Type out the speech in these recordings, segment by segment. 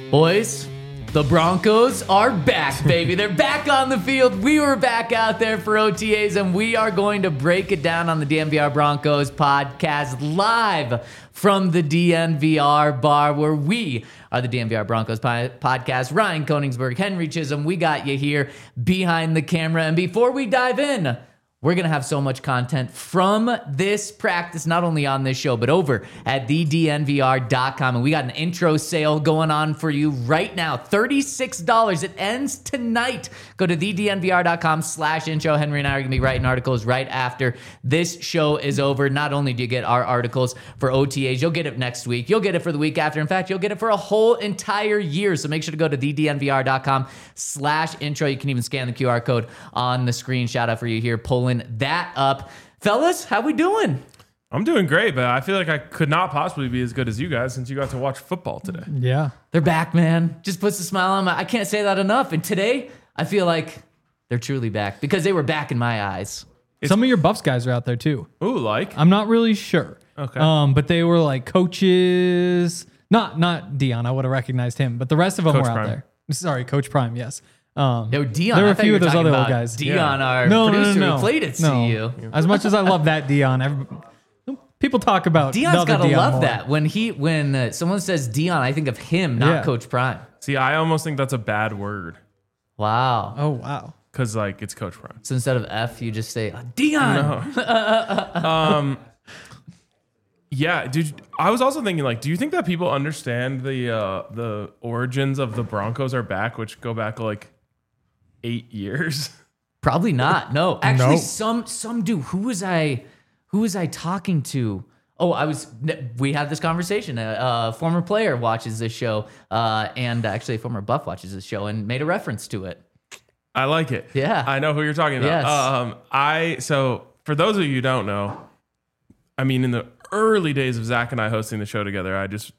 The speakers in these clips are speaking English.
Boys, the Broncos are back, baby. They're back on the field. We were back out there for OTAs, and we are going to break it down on the DNVR Broncos podcast live from the DNVR bar, where we are the DNVR Broncos podcast. Ryan Koenigsberg, Henry Chisholm, we got you here behind the camera. And before we dive in, we're going to have so much content from this practice, not only on this show, but over at thednvr.com. And we got an intro sale going on for you right now. $36. It ends tonight. Go to thednvr.com/intro. Henry and I are going to be writing articles right after this show is over. Not only do you get our articles for OTAs, you'll get it next week. You'll get it for the week after. In fact, you'll get it for a whole entire year. So make sure to go to thednvr.com/intro. You can even scan the QR code on the screen. Shout out for you here, pulling that up. Fellas, how we doing? I'm doing great, but I feel like I could not possibly be as good as you guys since you got to watch football today. Yeah. They're back, man. Just puts a smile on my... I can't say that enough. And today, I feel like they're truly back because they were back in my eyes. Some of your Buffs guys are out there too. Ooh, like? I'm not really sure. Okay. But they were like coaches. Not Dion. I would have recognized him, but the rest of them Coach were out Prime. there. Sorry, Coach Prime. Yes. Dion. There were a few of those other old guys. Dion, our producer who played at CU. As much as I love that Dion, people talk about Dion's got to love more. that. When someone says Dion, I think of him, not Coach Prime. See, I almost think that's a bad word Wow. Oh wow. because, like, it's Coach Prime. So instead of F, you just say Dion. No. Yeah, dude. I was also thinking, like, do you think that people understand the origins of the Broncos are back, which go back like 8 years? Probably not. No, actually, No. some do. Who was I talking to? Oh, we had this conversation. A former player watches this show, and actually a former Buff watches this show, and made a reference to it. I like it. Yeah. I know who you're talking about. Yes. So for those of you who don't know, I mean, in the early days of Zach and I hosting the show together,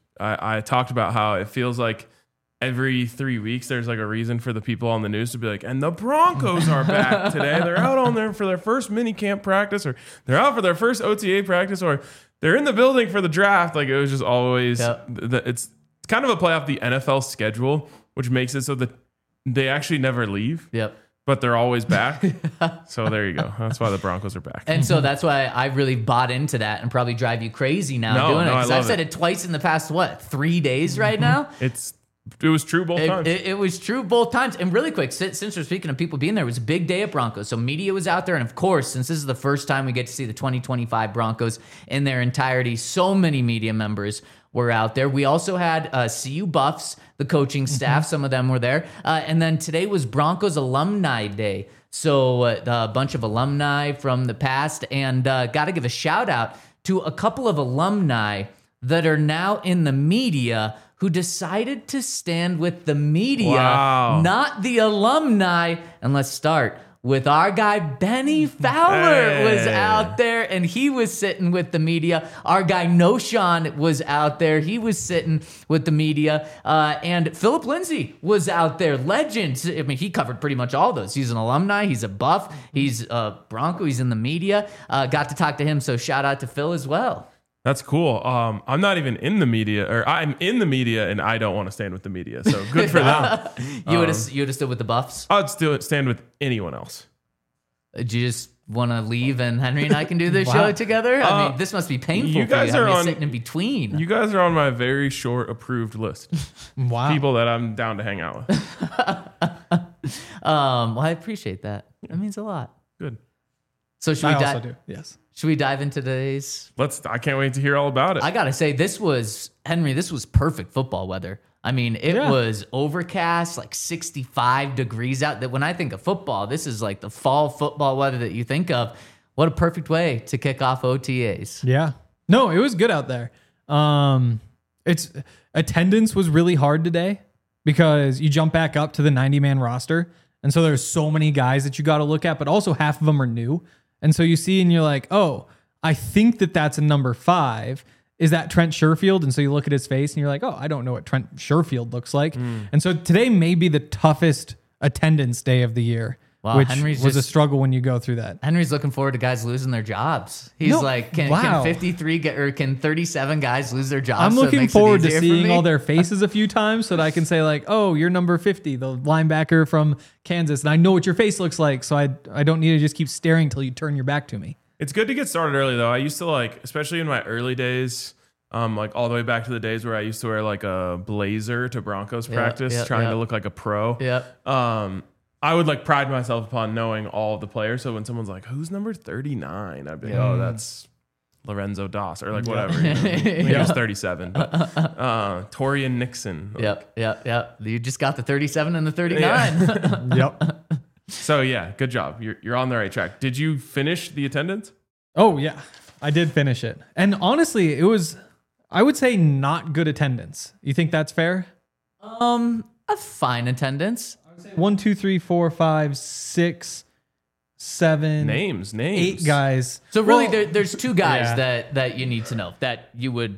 I talked about how it feels like every 3 weeks there's like a reason for the people on the news to be like, and the Broncos are back today. They're out on there for their first mini camp practice, or they're out for their first OTA practice, or they're in the building for the draft. Like, it was just always, it's kind of a play off the NFL schedule, which makes it so that they actually never leave. Yep. But they're always back. So there you go. That's why the Broncos are back. And so that's why I really bought into that and probably drive you crazy now doing it. I Because love I've said it twice in the past, 3 days right now? It was true both times. It was true both times. And really quick, since we're speaking of people being there, it was a big day at Broncos. So media was out there. And of course, since this is the first time we get to see the 2025 Broncos in their entirety, so many media members were out there. We also had CU Buffs, the coaching staff. Some of them were there. And then today was Broncos Alumni Day. So a bunch of alumni from the past. And got to give a shout out to a couple of alumni that are now in the media who decided to stand with the media, not the alumni. And let's start with our guy, Benny Fowler was out there, and he was sitting with the media. Our guy, Noshawn, was out there. He was sitting with the media. And Philip Lindsay was out there. Legend. I mean, he covered pretty much all those. He's an alumni. He's a Buff. He's a Bronco. He's in the media. Got to talk to him, so shout out to Phil as well. That's cool. I'm not even in the media, or I'm in the media, and I don't want to stand with the media. So good for them. You would have stood with the Buffs? I'd still stand with anyone else. Do you just want to leave and Henry and I can do this show together? I mean, this must be painful you guys for you. are Sitting in between. You guys are on my very short approved list. Wow. People that I'm down to hang out with. Well, I appreciate that. That means a lot. Good. So I also do. Yes. Should we dive into today's? I can't wait to hear all about it. I gotta say, this was perfect football weather. I mean, it was overcast, like 65 degrees out. That when I think of football, this is like the fall football weather that you think of. What a perfect way to kick off OTAs. Yeah. No, it was good out there. It's attendance was really hard today because you jump back up to the 90-man roster. And so there's so many guys that you got to look at, but also half of them are new. And so you see and you're like, oh, I think that's a number 5. Is that Trent Sherfield? And so you look at his face and you're like, oh, I don't know what Trent Sherfield looks like. And so today may be the toughest attendance day of the year Wow, which Henry's was a just- struggle when you go through that. Henry's looking forward to guys losing their jobs. He's No, like, can wow. 53 get, or can 37 guys lose their jobs? I'm so it looking makes it forward to easier for seeing me? all their faces a few times so that I can say like, oh, you're number 50, the linebacker from Kansas. And I know what your face looks like. So I don't need to just keep staring till you turn your back to me. It's good to get started early though. I used to like, especially in my early days, like all the way back to the days where I used to wear like a blazer to Broncos practice, trying to look like a pro. Yep. I would like pride myself upon knowing all of the players. So when someone's like, "Who's number 39?" I'd be like, "Oh, that's Lorenzo Doss," or like whatever. You know? I think he was 37. But, Torian Nixon. Like, Yep. You just got the 37 and the 39. Yep. So yeah, good job. You're on the right track. Did you finish the attendance? Oh, yeah. I did finish it. And honestly, it was, I would say, not good attendance. You think that's fair? A fine attendance. 1, 2, 3, 4, 5, 6, 7, Names. 8 guys. So really, Well, there's two guys yeah. that you need to know that you would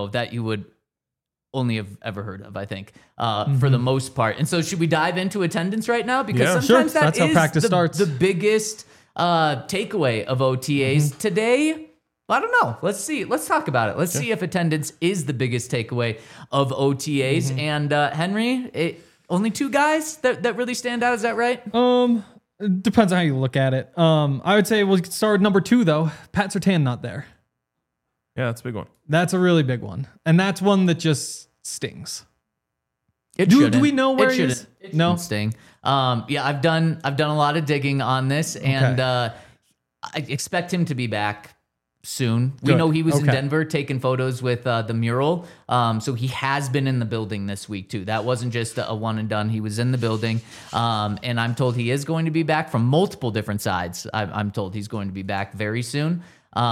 only have ever heard of, I think, for the most part. And so should we dive into attendance right now? Because Yeah. sometimes Sure. that That's how is practice starts. the biggest takeaway of OTAs. Today, I don't know. Let's see. Let's talk about it. Let's see if attendance is the biggest takeaway of OTAs. And Henry, only 2 guys that really stand out. Is that right? It depends on how you look at it. I would say we'll start with number 2, though. Pat Surtain not there. Yeah, that's a big one. That's a really big one. And that's one that just stings. It Do shouldn't. we know where it he is? shouldn't. It No? shouldn't sting. Yeah, I've done a lot of digging on this, and I expect him to be back soon. We Good. know he was in Okay. Denver taking photos with the mural, so he has been in the building this week too. That wasn't just a one and done. He was in the building, and I'm told he is going to be back from multiple different sides. I'm told he's going to be back very soon.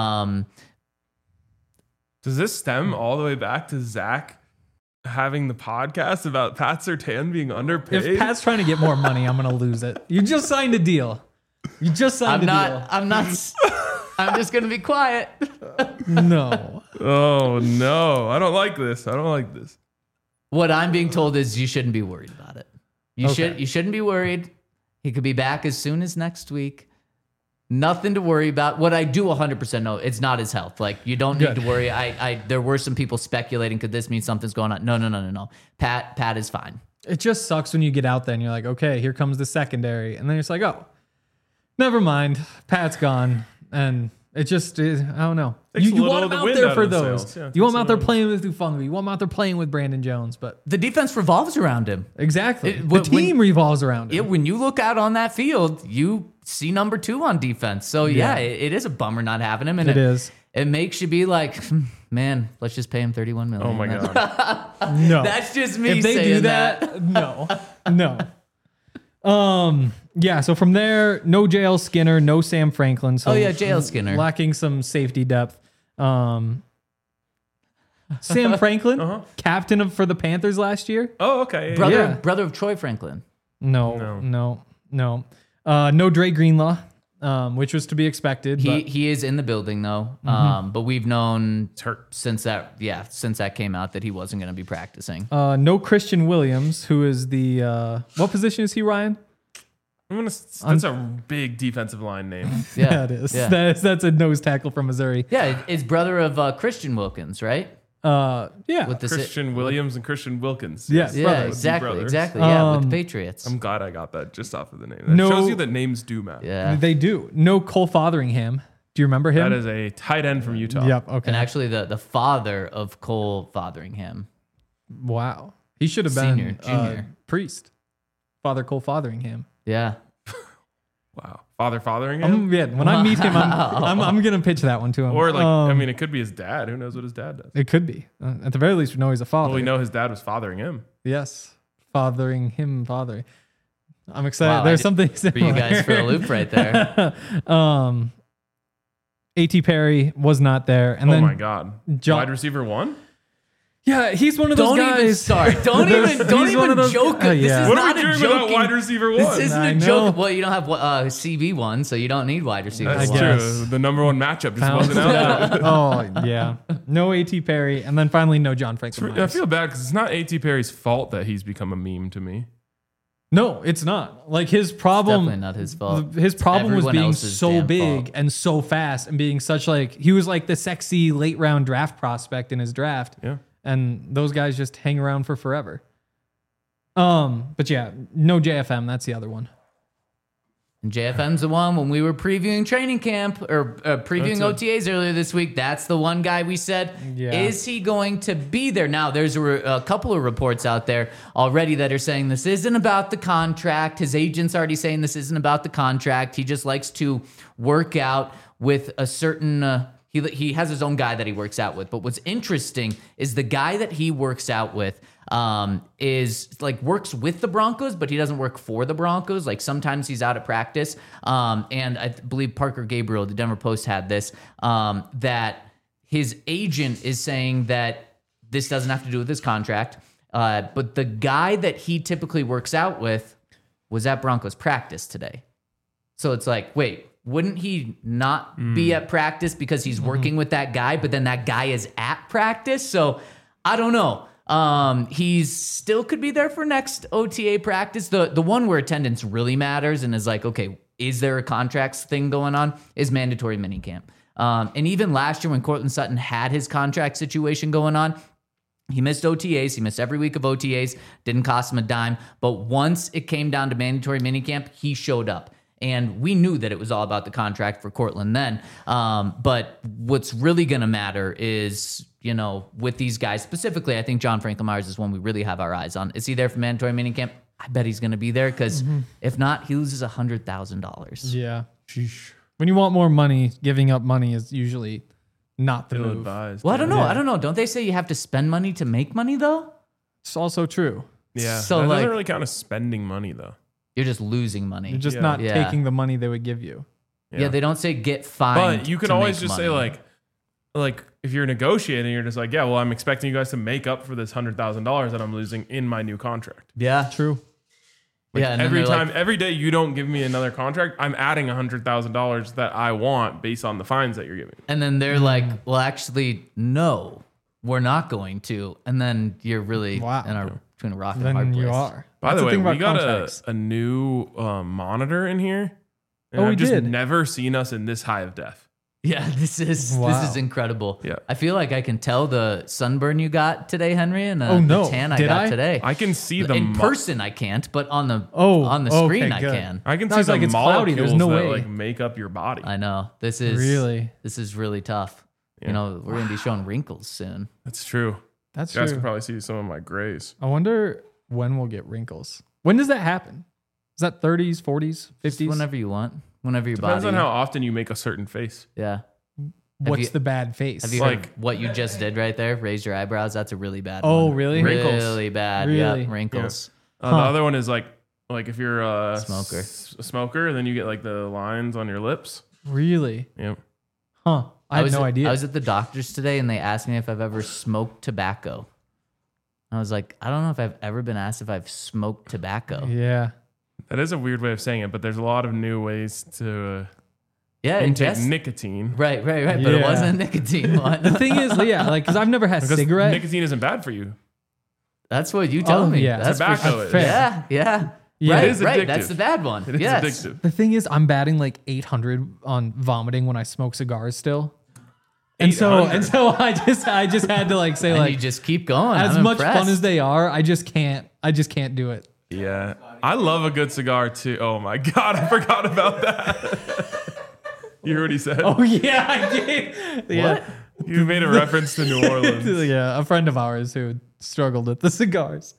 Does this stem all the way back to Zach having the podcast about Pat Surtain being underpaid? If Pat's trying to get more money, I'm going to lose it. You just signed a deal. You just signed deal. I'm not. I'm just going to be quiet. No. Oh no, I don't like this. What I'm being told is you shouldn't be worried about it. You shouldn't be worried. He could be back as soon as next week. Nothing to worry about. What I do 100% know, it's not his health. Like, you don't need to worry. There were some people speculating, could this mean something's going on? No. Pat is fine. It just sucks when you get out there and you're like, okay, here comes the secondary. And then it's like, oh, never mind. Pat's gone. And it just is, I don't know. Takes a You little want of him the out wind there out for of the those. sails. Yeah, You want him takes out a there little- playing with Ufunga. You want him out there playing with Brandon Jones. But The defense revolves around him. exactly. It- The when- team revolves around Yeah, him. when you look out on that field, you see number 2 on defense. So yeah, it is a bummer not having him. And It is. It makes you be like, man, let's just pay him $31 million. Oh my god. No. That's just me If they saying do that, no. Yeah, so from there, no JL Skinner, no Sam Franklin. So Oh, yeah, JL Skinner. lacking some safety depth. Sam Franklin, captain for the Panthers last year. Oh, okay. Brother of Troy Franklin. No. No Dre Greenlaw, which was to be expected. He is in the building though. But we've known It's hurt. since that came out that he wasn't going to be practicing. No Christian Williams, who is the what position is he, Ryan? That's a big defensive line name. Yeah, it is. Yeah, That's a nose tackle from Missouri. yeah, it's brother of Christian Wilkins, right? Yeah. With the Christian Williams and Christian Wilkins. Yes. yeah, brothers. exactly. Brothers. Yeah, with the Patriots. I'm glad I got that just off of the name. That No- shows you that names do matter. Yeah, They do. No Cole Fotheringham. Do you remember him? That is a tight end from Utah. Yep. Okay. and actually the father of Cole Fotheringham. Wow. He should have been Senior, junior. priest. Father Cole Fotheringham. Yeah, Wow. Fathering him? Yeah. When I meet him, I'm gonna pitch that one to him. Or I mean, it could be his dad. Who knows what his dad does? it could be. At the very least, we know he's a father. Well, we know his dad was fathering him. Yes. Fathering. I'm excited. Wow, There's I something for you guys for a loop right there. A.T. Perry was not there, and Oh then my God. John- Wide receiver 1? yeah, he's one of those Don't guys. even start. Don't He's even one of those- joke. yeah. This is What not are we a doing without joking. wide receiver 1? This isn't I a know. joke. Well, you don't have CB one, so you don't need wide receiver That's I one. guess. true. The number 1 matchup just Pounds. wasn't out there. Oh yeah, no A.T. Perry, and then finally no John Franklin. I Myers. feel bad because it's not A.T. Perry's fault that he's become a meme to me. No, it's not. Like his problem, Definitely not his fault. his problem was Everyone being else's so damn big fault. and so fast and being such like he was like the sexy late round draft prospect in his draft. Yeah. And those guys just hang around for forever. But yeah, no JFM. That's the other one. And JFM's the one when we were previewing training camp or previewing That's OTAs earlier this week. That's the one guy we said, Yeah. is he going to be there? Now, there's a couple of reports out there already that are saying this isn't about the contract. His agent's already saying this isn't about the contract. He just likes to work out with a certain... He has his own guy that he works out with. But what's interesting is the guy that he works out with is like works with the Broncos, but he doesn't work for the Broncos. Like sometimes he's out at practice. And I believe Parker Gabriel, the Denver Post, had this, that his agent is saying that this doesn't have to do with his contract. But the guy that he typically works out with was at Broncos practice today. So it's like, wait, wouldn't he not be at practice because he's working with that guy, but then that guy is at practice? So I don't know. He's still could be there for next OTA practice. The one where attendance really matters and is like, okay, is there a contracts thing going on? Is mandatory minicamp. And even last year when Cortland Sutton had his contract situation going on, he missed OTAs. He missed every week of OTAs. Didn't cost him a dime. But once it came down to mandatory minicamp, he showed up. And we knew that it was all about the contract for Cortland then. But what's really going to matter is, you know, with these guys specifically, I think John Franklin Myers is one we really have our eyes on. Is he there for mandatory minicamp? I bet he's going to be there because if not, he loses $100,000. Yeah. When you want more money, giving up money is usually not the Ill move. advised. Well, I don't know. Yeah. I don't know. Don't they say you have to spend money to make money though? It's also true. Yeah. So, that like- doesn't really count as spending money though. You're just losing money. You're just Yeah. not Yeah. taking the money they would give you. Yeah, they don't say get fined. But you can to always make just money. say like if you're negotiating, you're just like, yeah, well, I'm expecting you guys to make up for this $100,000 that I'm losing in my new contract. yeah, True. Like yeah. And then every they're time, like, every day you don't give me another contract, I'm adding $100,000 that I want based on the fines that you're giving me. and then they're like, well, actually, no, we're not going to. And then you're really Wow. between a rock and a hard Then place. you are. By That's the way, thing we about got contracts. a new monitor in here. And Oh, we I've just did. never seen us in this high of def. Yeah, this is Wow. incredible. Yeah. I feel like I can tell the sunburn you got today, Henry, and Oh, no. the tan I Did got I? today. I can see the in mo- person, I can't, but on the Okay, screen, I good. can. I can I see was the like, it's molecules cloudy, there's no that way. like make up your body. I know this is really tough. Yeah. You know, we're gonna be showing wrinkles soon. That's true. That's You guys true. can probably see some of my grays. I wonder when we'll get wrinkles. When does that happen? Is that 30s, 40s, 50s? Just whenever you want, whenever your Depends body. on how often you make a certain face. Yeah. What's you- the bad face? Have you Like- heard what you just did right there? Raise your eyebrows. That's a really bad one. Oh, really? Wrinkles. Really bad. Really? Yeah, wrinkles. The Huh. other one is like if you're a Smoker. a smoker, then you get like the lines on your lips. Really? Yep. Huh. I had was no idea. I was at the doctor's today and they asked me if I've ever smoked tobacco. I was like, I don't know if I've ever been asked if I've smoked tobacco. yeah. That is a weird way of saying it, but there's a lot of new ways to Yeah, I intake guess. nicotine. Right. But it Yeah. wasn't a nicotine one. The thing is, yeah, like, because I've never had Because cigarette. nicotine isn't bad for you. That's what you tell Oh, me. yeah. That's for Tobacco sure. is. Fair. Yeah. Yeah. Right, It is right. addictive. That's the bad one. It is yes. addictive. The thing is, I'm batting like 800 on vomiting when I smoke cigars still. And 800? so I just had to like say And like you just keep going. as I'm much impressed. fun as they are, I just can't do it. Yeah. I love a good cigar too. Oh my God, I forgot about that. You heard what he said? Oh yeah, I did. Yeah. You made a reference to New Orleans. Yeah, a friend of ours who struggled with the cigars.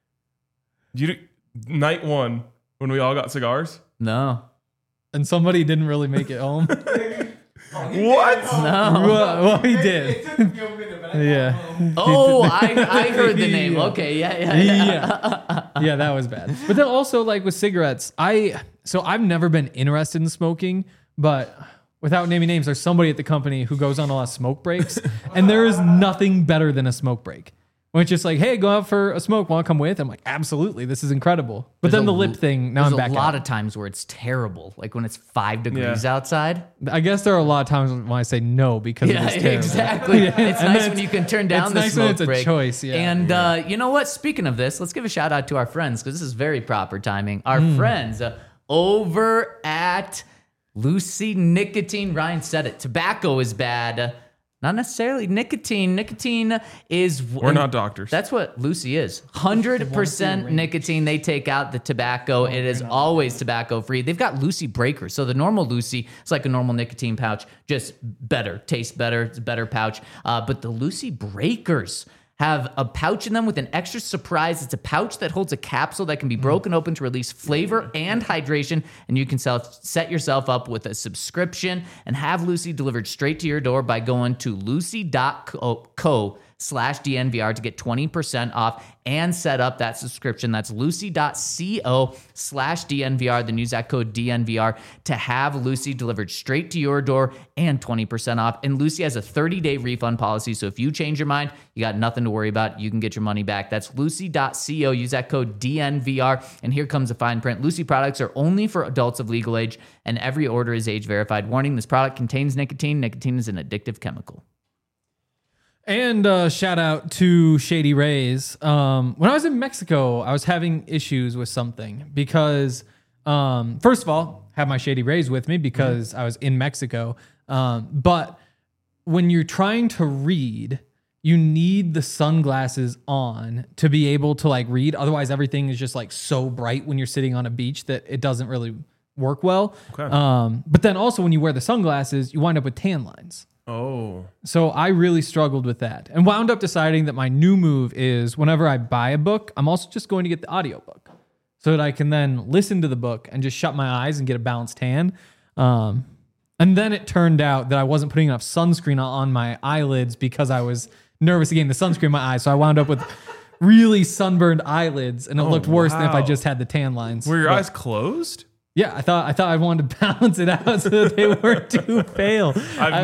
Night one, when we all got cigars. No. And somebody didn't really make it home. What? No. Well, he did. Yeah. Oh, I heard the name. Okay. Yeah. Yeah, that was bad. But then also like with cigarettes, I've never been interested in smoking, but without naming names, there's somebody at the company who goes on a lot of smoke breaks, and there is nothing better than a smoke break. When it's just like, hey, go out for a smoke. Want to come with? I'm like, absolutely. This is incredible. But then the lip thing, now I'm back There's a lot out. of times where it's terrible, like when it's 5 degrees outside. I guess there are a lot of times when I say no because it is terrible. Exactly. It's And nice then when you can turn down it's the nice when smoke it's a break. choice, yeah. And you know what? Speaking of this, let's give a shout out to our friends because this is very proper timing. Our friends over at Lucy Nicotine. Ryan said it. Tobacco is bad. Not necessarily nicotine. Nicotine is... We're not doctors. That's what Lucy is. 100% nicotine. They take out the tobacco. It is always tobacco free. They've got Lucy Breakers. So the normal Lucy is like a normal nicotine pouch, just better, tastes better. It's a better pouch. But the Lucy Breakers have a pouch in them with an extra surprise. It's a pouch that holds a capsule that can be broken open to release flavor and hydration. And you can set yourself up with a subscription and have Lucy delivered straight to your door by going to lucy.co/DNVR to get 20% off and set up that subscription. That's lucy.co/DNVR. Then use that code DNVR to have Lucy delivered straight to your door and 20% off. And Lucy has a 30-day refund policy. So if you change your mind, you got nothing to worry about. You can get your money back. That's lucy.co. Use that code DNVR. And here comes the fine print. Lucy products are only for adults of legal age, and every order is age verified. Warning, this product contains nicotine. Nicotine is an addictive chemical. And shout out to Shady Rays. When I was in Mexico, I was having issues with something because, first of all, I have my Shady Rays with me because I was in Mexico. But when you're trying to read, you need the sunglasses on to be able to like read. Otherwise, everything is just like so bright when you're sitting on a beach that it doesn't really work well. Okay. But then also when you wear the sunglasses, you wind up with tan lines. Oh. So I really struggled with that and wound up deciding that my new move is whenever I buy a book, I'm also just going to get the audiobook so that I can then listen to the book and just shut my eyes and get a balanced tan. And then it turned out that I wasn't putting enough sunscreen on my eyelids because I was nervous of getting the sunscreen in my eyes. So I wound up with really sunburned eyelids and it looked worse than if I just had the tan lines. Were your But- eyes closed? Yeah, I thought I wanted to balance it out so that they weren't too pale.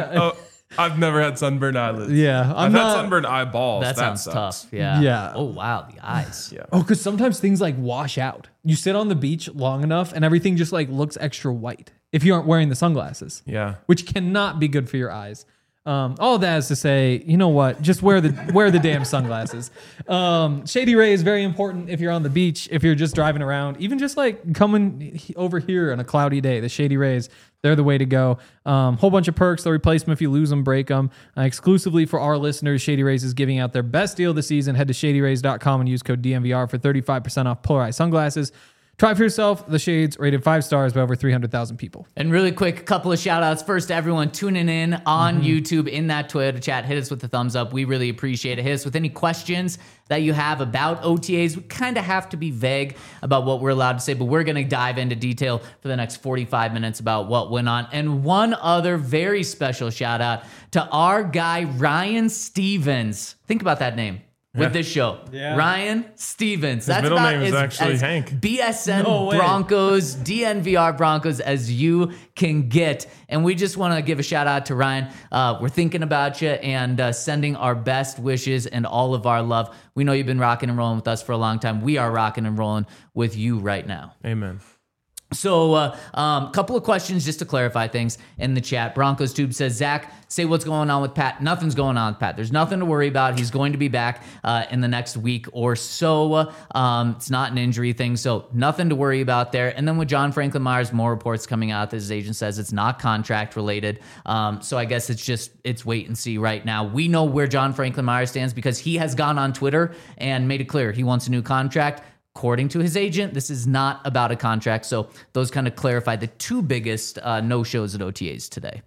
I've never had sunburned eyelids. Yeah, I've had sunburned eyeballs. That sounds sucks. tough. Yeah. Yeah. Oh, wow. The eyes. Yeah. Oh, because sometimes things like wash out. You sit on the beach long enough and everything just like looks extra white if you aren't wearing the sunglasses, Yeah. which cannot be good for your eyes. All that is to say, you know what? Just wear the damn sunglasses. Shady Ray is very important if you're on the beach, if you're just driving around, even just like coming over here on a cloudy day. The Shady Rays, they're the way to go. Whole bunch of perks. They'll replace them if you lose them, break them. Exclusively for our listeners, Shady Rays is giving out their best deal this season. Head to shadyrays.com and use code DNVR for 35% off polarized sunglasses. Try for yourself. The shades rated 5 stars by over 300,000 people. And really quick, a couple of shout outs. First, to everyone tuning in on YouTube, in that Twitter chat, hit us with the thumbs up. We really appreciate it. Hit us with any questions that you have about OTAs. We kind of have to be vague about what we're allowed to say, but we're going to dive into detail for the next 45 minutes about what went on. And one other very special shout out to our guy, Ryan Stevens. Think about that name. With this show, Ryan Stevens. That's middle about name is actually as Hank. BSN No way. Broncos, DNVR Broncos as you can get. And we just want to give a shout out to Ryan. We're thinking about you and sending our best wishes and all of our love. We know you've been rocking and rolling with us for a long time. We are rocking and rolling with you right now. Amen. So, couple of questions just to clarify things in the chat. Broncos Tube says, Zach, say what's going on with Pat. Nothing's going on with Pat. There's nothing to worry about. He's going to be back in the next week or so. It's not an injury thing, so nothing to worry about there. And then with John Franklin Myers, more reports coming out that his agent says it's not contract related. So I guess it's wait and see right now. We know where John Franklin Myers stands because he has gone on Twitter and made it clear he wants a new contract. According to his agent, this is not about a contract. So those kind of clarify the two biggest no-shows at OTAs today.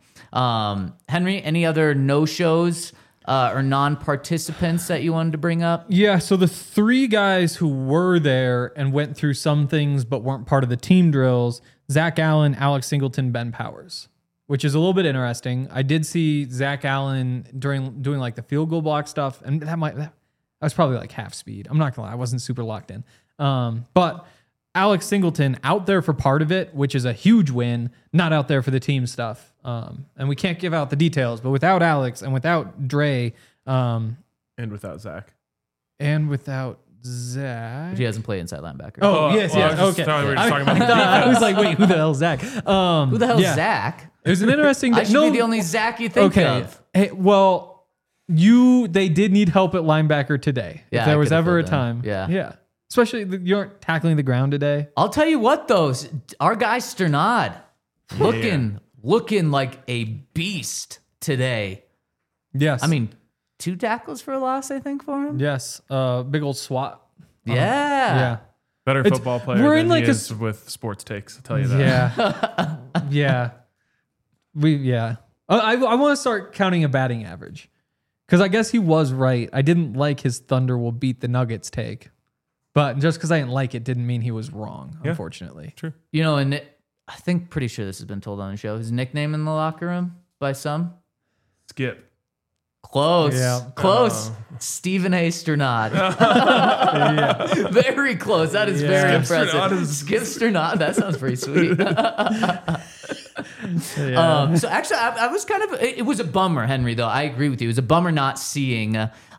Henry, any other no-shows or non-participants that you wanted to bring up? Yeah, so the 3 guys who were there and went through some things but weren't part of the team drills, Zach Allen, Alex Singleton, Ben Powers, which is a little bit interesting. I did see Zach Allen doing like the field goal block stuff, and that was probably like half speed. I'm not gonna lie, I wasn't super locked in. But Alex Singleton out there for part of it, which is a huge win, not out there for the team stuff. And we can't give out the details, but without Alex and without Dre, And without Zach. And without Zach. He doesn't play inside linebacker. Oh, yes. I was just Okay. thought we were just talking about I was like, wait, who the hell's Zach? Who the hell's yeah. Zach? It was an interesting I should be the only Zach you think Okay. of. Hey, well, they did need help at linebacker today. Yeah, if there I was could've ever a filled in. time. Yeah. Yeah. Especially you aren't tackling the ground today. I'll tell you what, though, our guy Sternad looking like a beast today. Yes. I mean, 2 tackles for a loss, I think, for him. yes. Big old SWAT. Yeah. Yeah. better It's- football player we're than in like he a is with sports takes. I'll tell you that. Yeah. Yeah. I want to start counting a batting average because I guess he was right. I didn't like his Thunder will beat the Nuggets take, but just because I didn't like it didn't mean he was wrong, unfortunately. True. You know, and I think pretty sure this has been told on the show. His nickname in the locker room by some? Skip. Close. Yeah. Close. Stephen A. Sternad. Very close. That is very Skip impressive. Sternad is- Skip Sternad. That sounds pretty sweet. So actually, I was kind of, it was a bummer, Henry, though. I agree with you. It was a bummer not seeing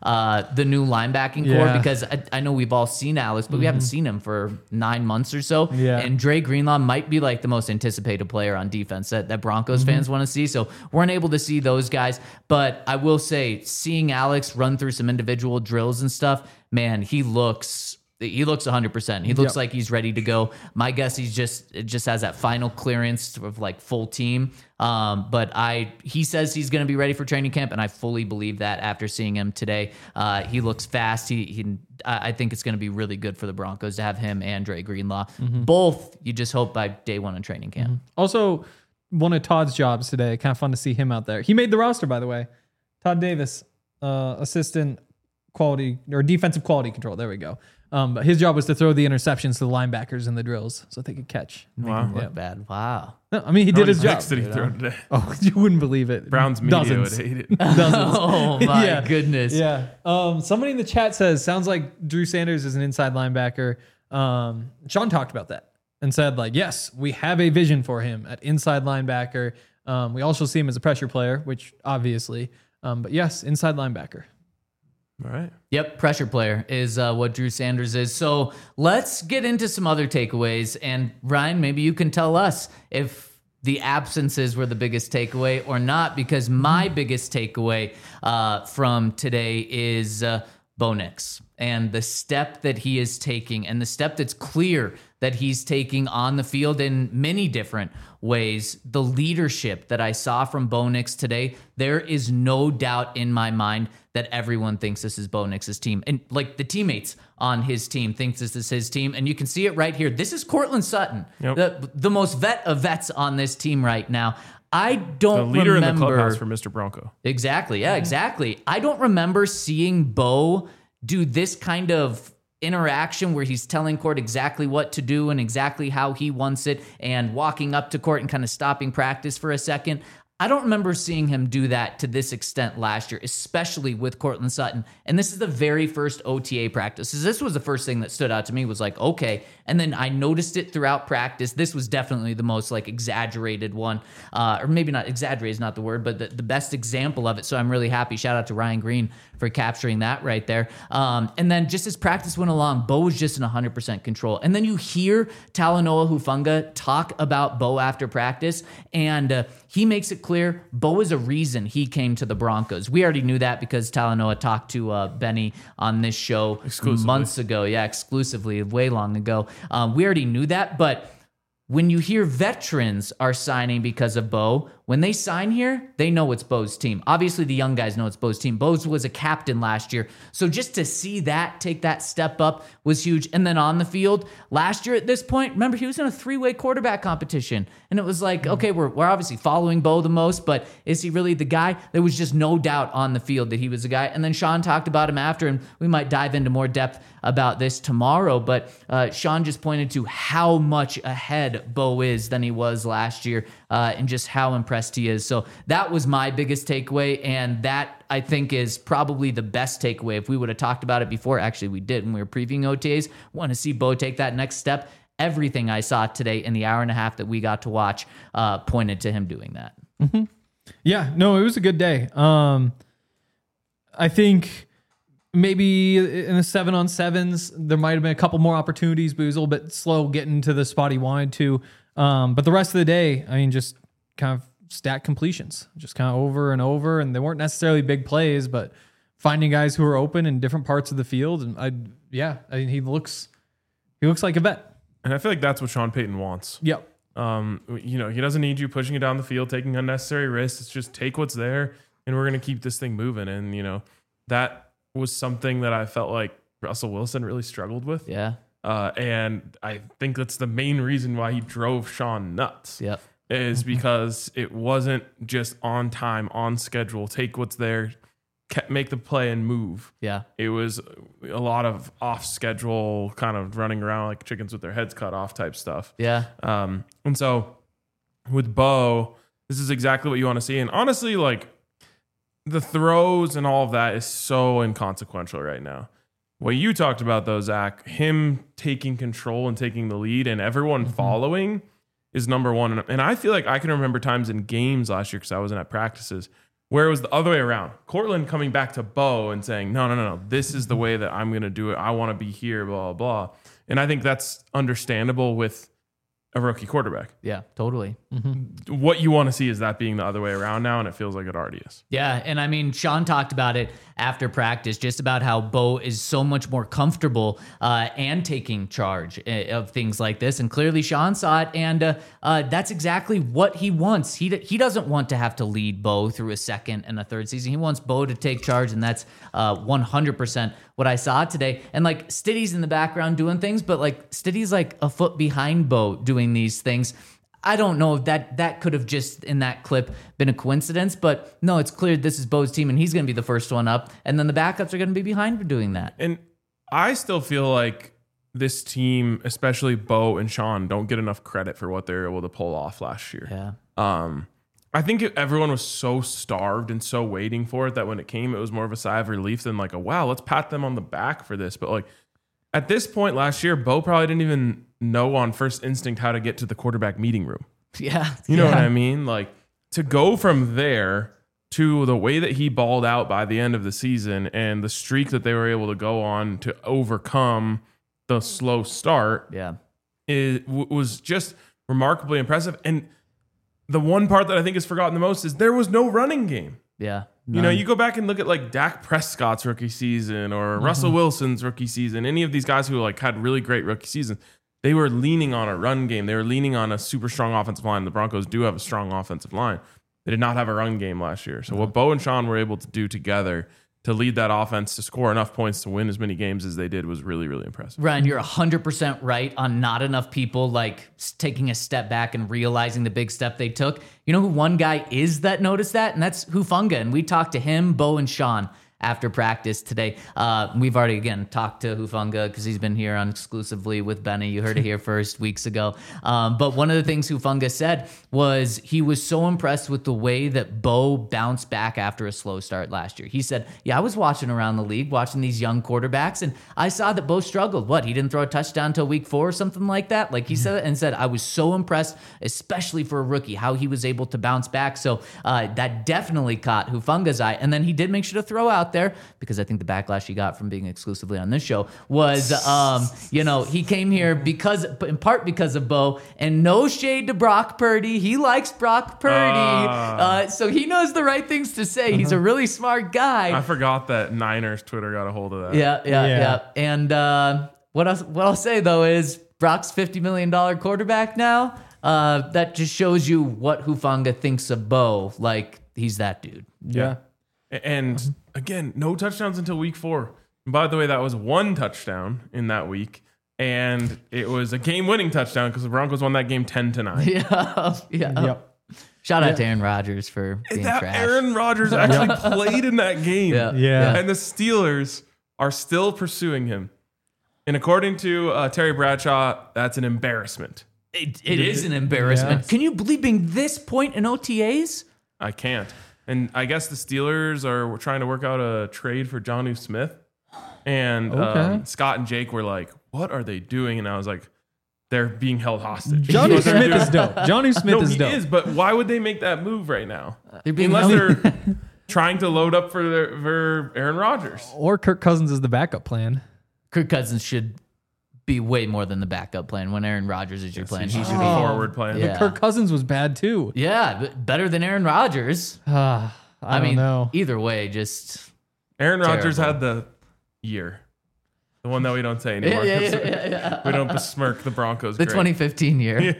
the new linebacking core Yeah. because I know we've all seen Alex, but we haven't seen him for 9 months or so. Yeah. And Dre Greenlaw might be like the most anticipated player on defense that Broncos fans want to see. So weren't able to see those guys. But I will say, seeing Alex run through some individual drills and stuff, man, he looks 100%. He looks like he's ready to go. My guess it just has that final clearance of like full team. But he says he's going to be ready for training camp, and I fully believe that after seeing him today. He looks fast. I think it's going to be really good for the Broncos to have him and Dre Greenlaw. Both, you just hope by day one in training camp. Also, one of Todd's jobs today. Kind of fun to see him out there. He made the roster, by the way. Todd Davis, assistant quality or defensive quality control. There we go. But his job was to throw the interceptions to the linebackers in the drills so they could catch. Wow. Look bad. Wow. No, I mean, he How did many his job. picks did he throw today? Oh, you wouldn't believe it. Browns media Dozens. would hate it. Dozens. Oh my Yeah. goodness. Yeah. Somebody in the chat says, sounds like Drew Sanders is an inside linebacker. Sean talked about that and said, like, yes, we have a vision for him at inside linebacker. We also see him as a pressure player, which obviously, but yes, inside linebacker. All right. Yep, pressure player is what Drew Sanders is. So let's get into some other takeaways. And Ryan, maybe you can tell us if the absences were the biggest takeaway or not, because my biggest takeaway from today is Bo Nix and the step that he is taking and the step that's clear that he's taking on the field in many different ways. The leadership that I saw from Bo Nix today, there is no doubt in my mind that everyone thinks this is Bo Nix's team. And like the teammates on his team thinks this is his team. And you can see it right here. This is Cortland Sutton, the most vet of vets on this team right now. I don't The leader remember. in the clubhouse for Mr. Bronco. Exactly. Yeah, exactly. I don't remember seeing Bo do this kind of interaction where he's telling Court exactly what to do and exactly how he wants it and walking up to Court and kind of stopping practice for a second. I don't remember seeing him do that to this extent last year, especially with Cortland Sutton. And this is the very first OTA practice. This was the first thing that stood out to me was like, okay. And then I noticed it throughout practice. This was definitely the most like exaggerated one, or maybe not exaggerated is not the word, but the best example of it. So I'm really happy. Shout out to Ryan Green for capturing that right there. And then just as practice went along, Bo was just in 100% control. And then you hear Talanoa Hufanga talk about Bo after practice, and he makes it clear Bo is a reason he came to the Broncos. We already knew that because Talanoa talked to Benny on this show months ago. Yeah, exclusively, way long ago. We already knew that, but when you hear veterans are signing because of Bo, when they sign here, they know it's Bo's team. Obviously, the young guys know it's Bo's team. Bo was a captain last year. So just to see that, take that step up was huge. And then on the field, last year at this point, remember, he was in a 3-way quarterback competition. And it was like, okay, we're obviously following Bo the most, but is he really the guy? There was just no doubt on the field that he was the guy. And then Sean talked about him after, and we might dive into more depth about this tomorrow. But Sean just pointed to how much ahead Bo is than he was last year, and just how impressed he is. So that was my biggest takeaway, and that I think is probably the best takeaway. If we would have talked about it before, actually we did when we were previewing OTAs, want to see Bo take that next step. Everything I saw today in the hour and a half that we got to watch pointed to him doing that. Mm-hmm. Yeah, no, it was a good day. I think maybe in the 7-on-7s, there might have been a couple more opportunities, but he was a little bit slow getting to the spot he wanted to. But the rest of the day, I mean, just kind of stat completions, just kind of over and over. And they weren't necessarily big plays, but finding guys who are open in different parts of the field. And I mean, he looks like a vet. And I feel like that's what Sean Payton wants. Yep. He doesn't need you pushing it down the field, taking unnecessary risks. It's just take what's there, and we're going to keep this thing moving. And, that was something that I felt like Russell Wilson really struggled with. Yeah. And I think that's the main reason why he drove Sean nuts. Yep. Is because it wasn't just on time, on schedule, take what's there, make the play and move. Yeah. It was a lot of off schedule, kind of running around like chickens with their heads cut off type stuff. Yeah. And so with Bo, this is exactly what you want to see. And honestly, like the throws and all of that is so inconsequential right now. What you talked about though, Zach, him taking control and taking the lead and everyone following is number one. And I feel like I can remember times in games last year, because I wasn't at practices, where it was the other way around. Cortland coming back to Bo and saying, no, this is the way that I'm going to do it. I want to be here, blah, blah, blah. And I think that's understandable with a rookie quarterback. Yeah, totally. What you want to see is that being the other way around now, and it feels like it already is. Yeah, and I mean, Sean talked about it after practice, just about how Bo is so much more comfortable and taking charge of things like this. And clearly Sean saw it, and that's exactly what he wants. He doesn't want to have to lead Bo through a second and a third season. He wants Bo to take charge, and that's 100% what I saw today. And like Stiddy's in the background doing things, but like Stiddy's like a foot behind Bo doing these things. I don't know if that could have just in that clip been a coincidence, but no, it's clear this is Bo's team and he's going to be the first one up, and then the backups are going to be behind for doing that. And I still feel like this team, especially Bo and Sean, don't get enough credit for what they were able to pull off last year. Yeah. I think everyone was so starved and so waiting for it that when it came, it was more of a sigh of relief than like wow, let's pat them on the back for this. But like at this point last year, Bo probably didn't even know on first instinct how to get to the quarterback meeting room. Yeah. You know what I mean? Like to go from there to the way that he balled out by the end of the season and the streak that they were able to go on to overcome the slow start. Yeah. It was just remarkably impressive. And the one part that I think is forgotten the most is there was no running game. Yeah. You go back and look at like Dak Prescott's rookie season or Russell Wilson's rookie season, any of these guys who like had really great rookie seasons, they were leaning on a run game. They were leaning on a super strong offensive line. The Broncos do have a strong offensive line. They did not have a run game last year. So what Bo and Sean were able to do together to lead that offense to score enough points to win as many games as they did was really, really impressive. Ryan, you're 100% right on not enough people like taking a step back and realizing the big step they took. You know who one guy is that noticed that? And that's Hufanga. And we talked to him, Bo, and Sean after practice today. We've already, again, talked to Hufanga because he's been here on exclusively with Benny. You heard it here first weeks ago. But one of the things Hufanga said was he was so impressed with the way that Bo bounced back after a slow start last year. He said, I was watching around the league, watching these young quarterbacks, and I saw that Bo struggled. He didn't throw a touchdown until week 4 or something like that? Like he said it and said, I was so impressed, especially for a rookie, how he was able to bounce back. So that definitely caught Hufanga's eye. And then he did make sure to throw out there, because I think the backlash he got from being exclusively on this show was, he came here in part because of Bo, and no shade to Brock Purdy. He likes Brock Purdy. So he knows the right things to say. He's a really smart guy. I forgot that Niners Twitter got a hold of that. Yeah. And what I'll say though is Brock's $50 million quarterback now. That just shows you what Hufanga thinks of Bo. Like he's that dude. Yeah. And again, no touchdowns until week 4. And by the way, that was 1 touchdown in that week. And it was a game-winning touchdown because the Broncos won that game 10-9. Yeah. Yep. Shout out to Aaron Rodgers for being trash. Aaron Rodgers actually played in that game. Yeah. And the Steelers are still pursuing him. And according to Terry Bradshaw, that's an embarrassment. It is an embarrassment. Yes. Can you believe being this point in OTAs? I can't. And I guess the Steelers are trying to work out a trade for Jonnu Smith. And Scott and Jake were like, what are they doing? And I was like, they're being held hostage. Jonnu Smith is dope. Jonnu Smith is dope. He is, but why would they make that move right now? They're being Unless they're trying to load up for Aaron Rodgers. Or Kirk Cousins is the backup plan. Kirk Cousins should be way more than the backup plan. When Aaron Rodgers is your plan, he should be forward plan. Yeah. Kirk Cousins was bad too. Yeah, but better than Aaron Rodgers. I don't know. Either way, just Aaron Rodgers Terrible. had the year. The one that we don't say anymore. We don't besmirk the Broncos. the great. 2015 year.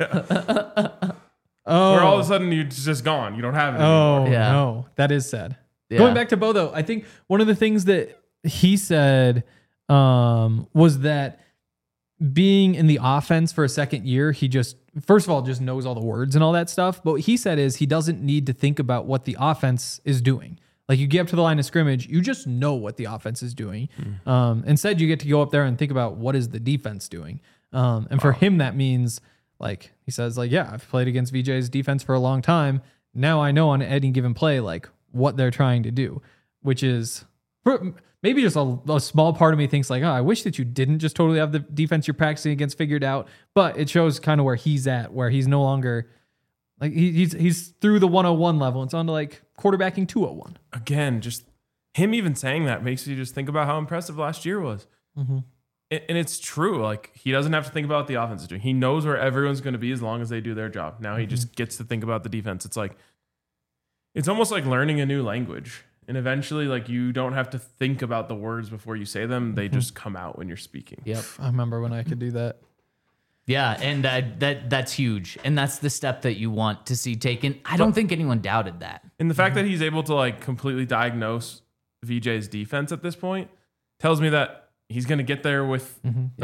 Oh, Where all of a sudden you're just gone. You don't have it oh anymore. Yeah. no, that is sad. Yeah. Going back to Bo though, I think one of the things that he said was that being in the offense for a second year, he just first of all just knows all the words and all that stuff. But what he said is he doesn't need to think about what the offense is doing. Like you get up to the line of scrimmage, you just know what the offense is doing. Instead, you get to go up there and think about what is the defense doing. And for him, that means like he says, like, yeah, I've played against VJ's defense for a long time. Now I know on any given play, like what they're trying to do, which is maybe just a small part of me thinks like, oh, I wish that you didn't just totally have the defense you're practicing against figured out. But it shows kind of where he's at, where he's no longer like he's through the 101 level. It's on to like quarterbacking 201. Again, just him even saying that makes you just think about how impressive last year was. And it's true. Like he doesn't have to think about what the offense is doing. He knows where everyone's going to be as long as they do their job. Now he just gets to think about the defense. It's like, it's almost like learning a new language. And eventually, like you don't have to think about the words before you say them. They just come out when you're speaking. Yep. I remember when I could do that. Yeah, and that's huge, and that's the step that you want to see taken. I don't think anyone doubted that. And the fact that he's able to like completely diagnose VJ's defense at this point tells me that he's going to get there with,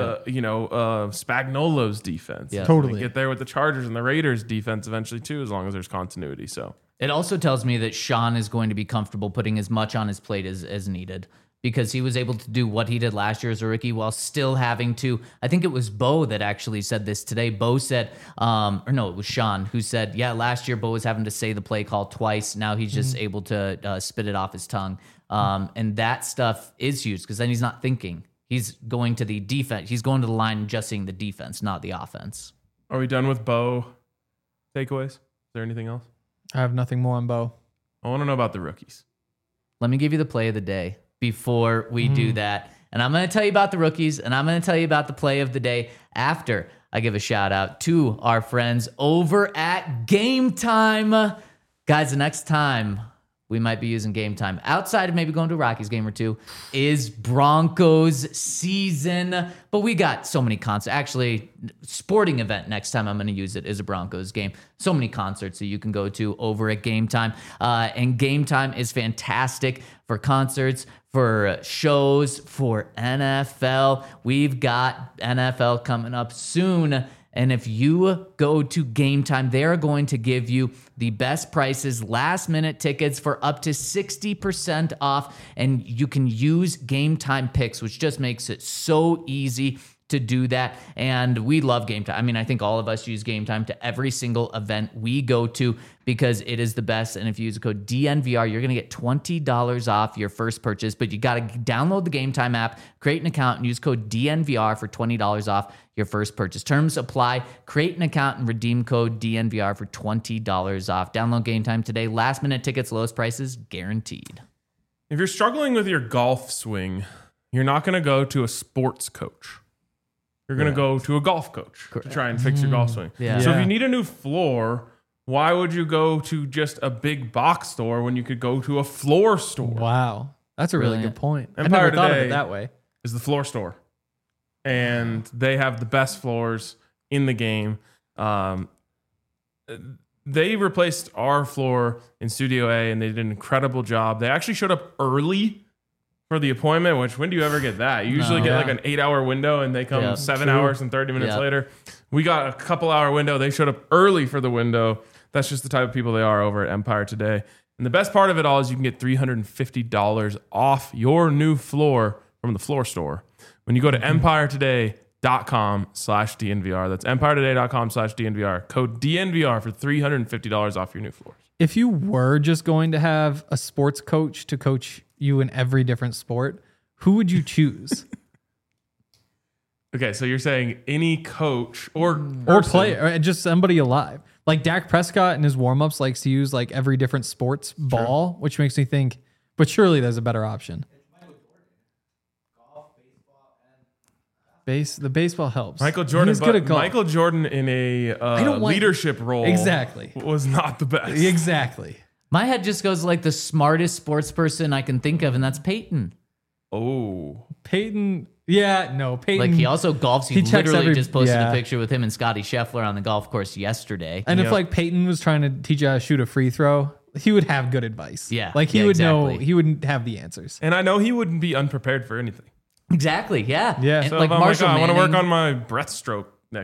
Spagnuolo's defense. Yeah. He's gonna Totally. get there with the Chargers and the Raiders defense eventually too, as long as there's continuity. So It also tells me that Sean is going to be comfortable putting as much on his plate as needed, because he was able to do what he did last year as a rookie while still having to. I think it was Bo that actually said this today. Bo said, or no, it was Sean who said, yeah, last year Bo was having to say the play call twice. Now he's just able to spit it off his tongue. And that stuff is huge because then he's not thinking. He's going to the defense. He's going to the line and just seeing the defense, not the offense. are we done with Bo takeaways? Is there anything else? I have nothing more on Bo. I want to know about the rookies. Let me give you the play of the day before we do that. And I'm going to tell you about the rookies, and I'm going to tell you about the play of the day after I give a shout out to our friends over at Game Time. Guys, the next time we might be using Game Time, outside of maybe going to a Rockies game or two, is Broncos season. But we got so many concerts. Actually, sporting event next time I'm going to use it is a Broncos game. So many concerts that you can go to over at Game Time. And Game Time is fantastic for concerts, for shows, for NFL. We've got NFL coming up soon. And if you go to Game Time, they're going to give you the best prices, last minute tickets for up to 60% off. And you can use Game Time picks, which just makes it so easy to do that. And we love Game Time. I mean, I think all of us use Game Time to every single event we go to because it is the best. And if you use the code DNVR, you're going to get $20 off your first purchase. But you got to download the Game Time app, create an account, and use code DNVR for $20 off your first purchase. Terms apply. Create an account and redeem code DNVR for $20 off. Download Game Time today. Last minute tickets, lowest prices guaranteed. If you're struggling with your golf swing, you're not going to go to a sports coach. You're going to go to a golf coach to try and fix your golf swing. Yeah. So if Yeah. you need a new floor, why would you go to just a big box store when you could go to a floor store? Wow. That's a really Brilliant. good point. I Empire never thought of Today it that way. Is the floor store. And they have the best floors in the game. They replaced our floor in Studio A, and they did an incredible job. They actually showed up early for the appointment, which when do you ever get that? You usually get Yeah. like an 8-hour window, and they come Yeah, 7 true. hours and 30 minutes Yeah. later. We got a couple-hour window. They showed up early for the window. That's just the type of people they are over at Empire Today. And the best part of it all is you can get $350 off your new floor from the floor store when you go to empiretoday.com/DNVR. That's empiretoday.com/DNVR. Code DNVR for $350 off your new floors. If you were just going to have a sports coach to coach you in every different sport, who would you choose? Okay, so you're saying any coach or Or person- player, or just somebody alive. Like Dak Prescott in his warmups likes to use like every different sports ball, which makes me think, but surely there's a better option. The baseball helps. Michael Jordan, He's good at but golf. Michael Jordan in a don't want- leadership role Exactly. was not the best. Exactly. My head just goes like the smartest sports person I can think of, and that's Peyton. Oh, Peyton. Yeah, no, Peyton. Like he also golfs. He He checks literally every- just posted yeah. a picture with him and Scotty Scheffler on the golf course yesterday. And if Yep. like Peyton was trying to teach you how to shoot a free throw, he would have good advice. Yeah, Like he yeah, would know, exactly. he wouldn't have the answers. and I know he wouldn't be unprepared for anything. Exactly. Yeah. Yeah. And So like if I'm Marshall I want to work Manning- on my breaststroke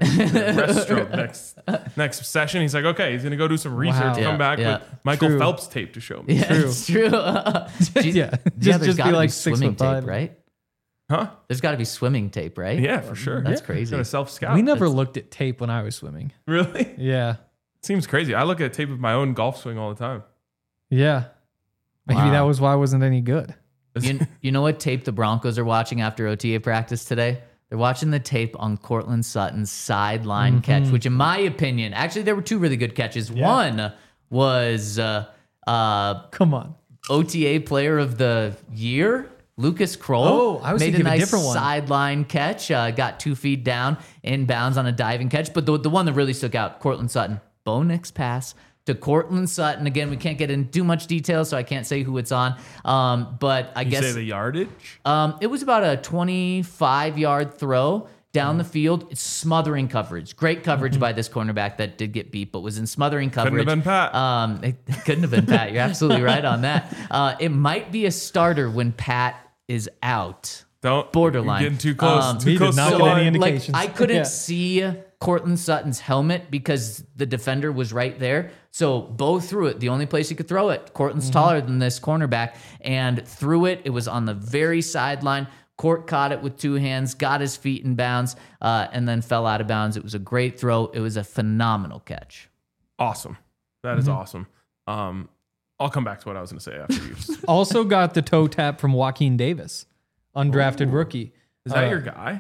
next session. He's like, okay, he's gonna go do some research, Wow. come Yeah, back yeah. with Michael True. Phelps tape to show me. Yeah, it's true. Yeah. there's Just be gotta like swimming 6'5". tape, right? Huh? There's got to be swimming tape, right? Yeah, for sure. That's Yeah. crazy. Got a self scout. We never looked at tape when I was swimming. Really? Yeah. Seems crazy. I look at tape of my own golf swing all the time. Yeah. Maybe Wow. that was why I wasn't any good. You know what tape the Broncos are watching after OTA practice today? They're watching the tape on Cortland Sutton's sideline catch, which in my opinion, actually there were two really good catches. One was Come on. OTA player of the year, Lucas Kroll. Oh, I was made thinking a of a nice different one. sideline catch, got 2 feet down, inbounds on a diving catch. But the one that really stuck out, Cortland Sutton, Bo Nix pass to Cortland Sutton. Again, we can't get into too much detail, so I can't say who it's on. But I You guess say the yardage? it was about a 25-yard throw down the field. It's smothering coverage. Great coverage by this cornerback that did get beat, but was in smothering coverage. Couldn't have been Pat. It couldn't have been Pat. You're absolutely right on that. It might be a starter when Pat is out. Don't borderline. You're getting too close. he Too close did not to the get any line. indication. Like I couldn't Yeah. see Cortland Sutton's helmet because the defender was right there. So Bo threw it. The only place he could throw it. Cortland's taller than this cornerback and threw it. It was on the very sideline. Court caught it with two hands, got his feet in bounds, and then fell out of bounds. It was a great throw. It was a phenomenal catch. Awesome. That is awesome. I'll come back to what I was going to say after you. Also got the toe tap from Joaquin Davis, undrafted rookie. Is that your guy?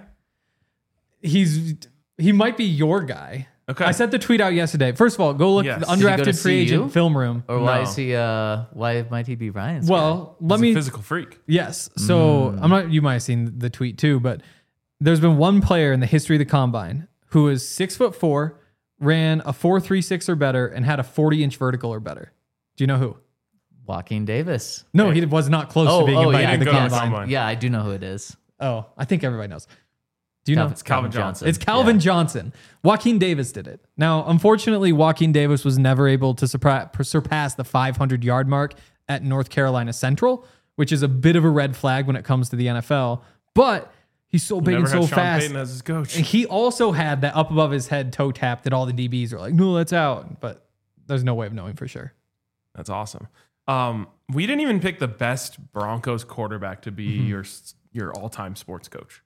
He might be your guy. Okay. I sent the tweet out yesterday. First of all, go look Yes. at the Did he go to undrafted free CU? agent film room. Or why No. is he? Why might he be Ryan's? guy? Well, let He's me a physical freak. Yes. So I'm not. You might have seen the tweet too, but there's been one player in the history of the combine who is 6'4", ran a 4.36 or better, and had a 40-inch vertical or better. Do you know who? Joaquin Davis. No, he was not close to being invited yeah, to the Go to the combine. combine. Yeah, I do know who it is. Oh, I think everybody knows. Do you know? It's Calvin Calvin Johnson. It's Calvin Yeah. Johnson. Joaquin Davis did it. Now, unfortunately, Joaquin Davis was never able to surpass the 500-yard mark at North Carolina Central, which is a bit of a red flag when it comes to the NFL. But he's so big Never and so had Sean fast. Payton as his coach. And he also had that up above his head toe tap that all the DBs are like, no, that's out. But there's no way of knowing for sure. That's awesome. We didn't even pick the best Broncos quarterback to be your all-time sports coach.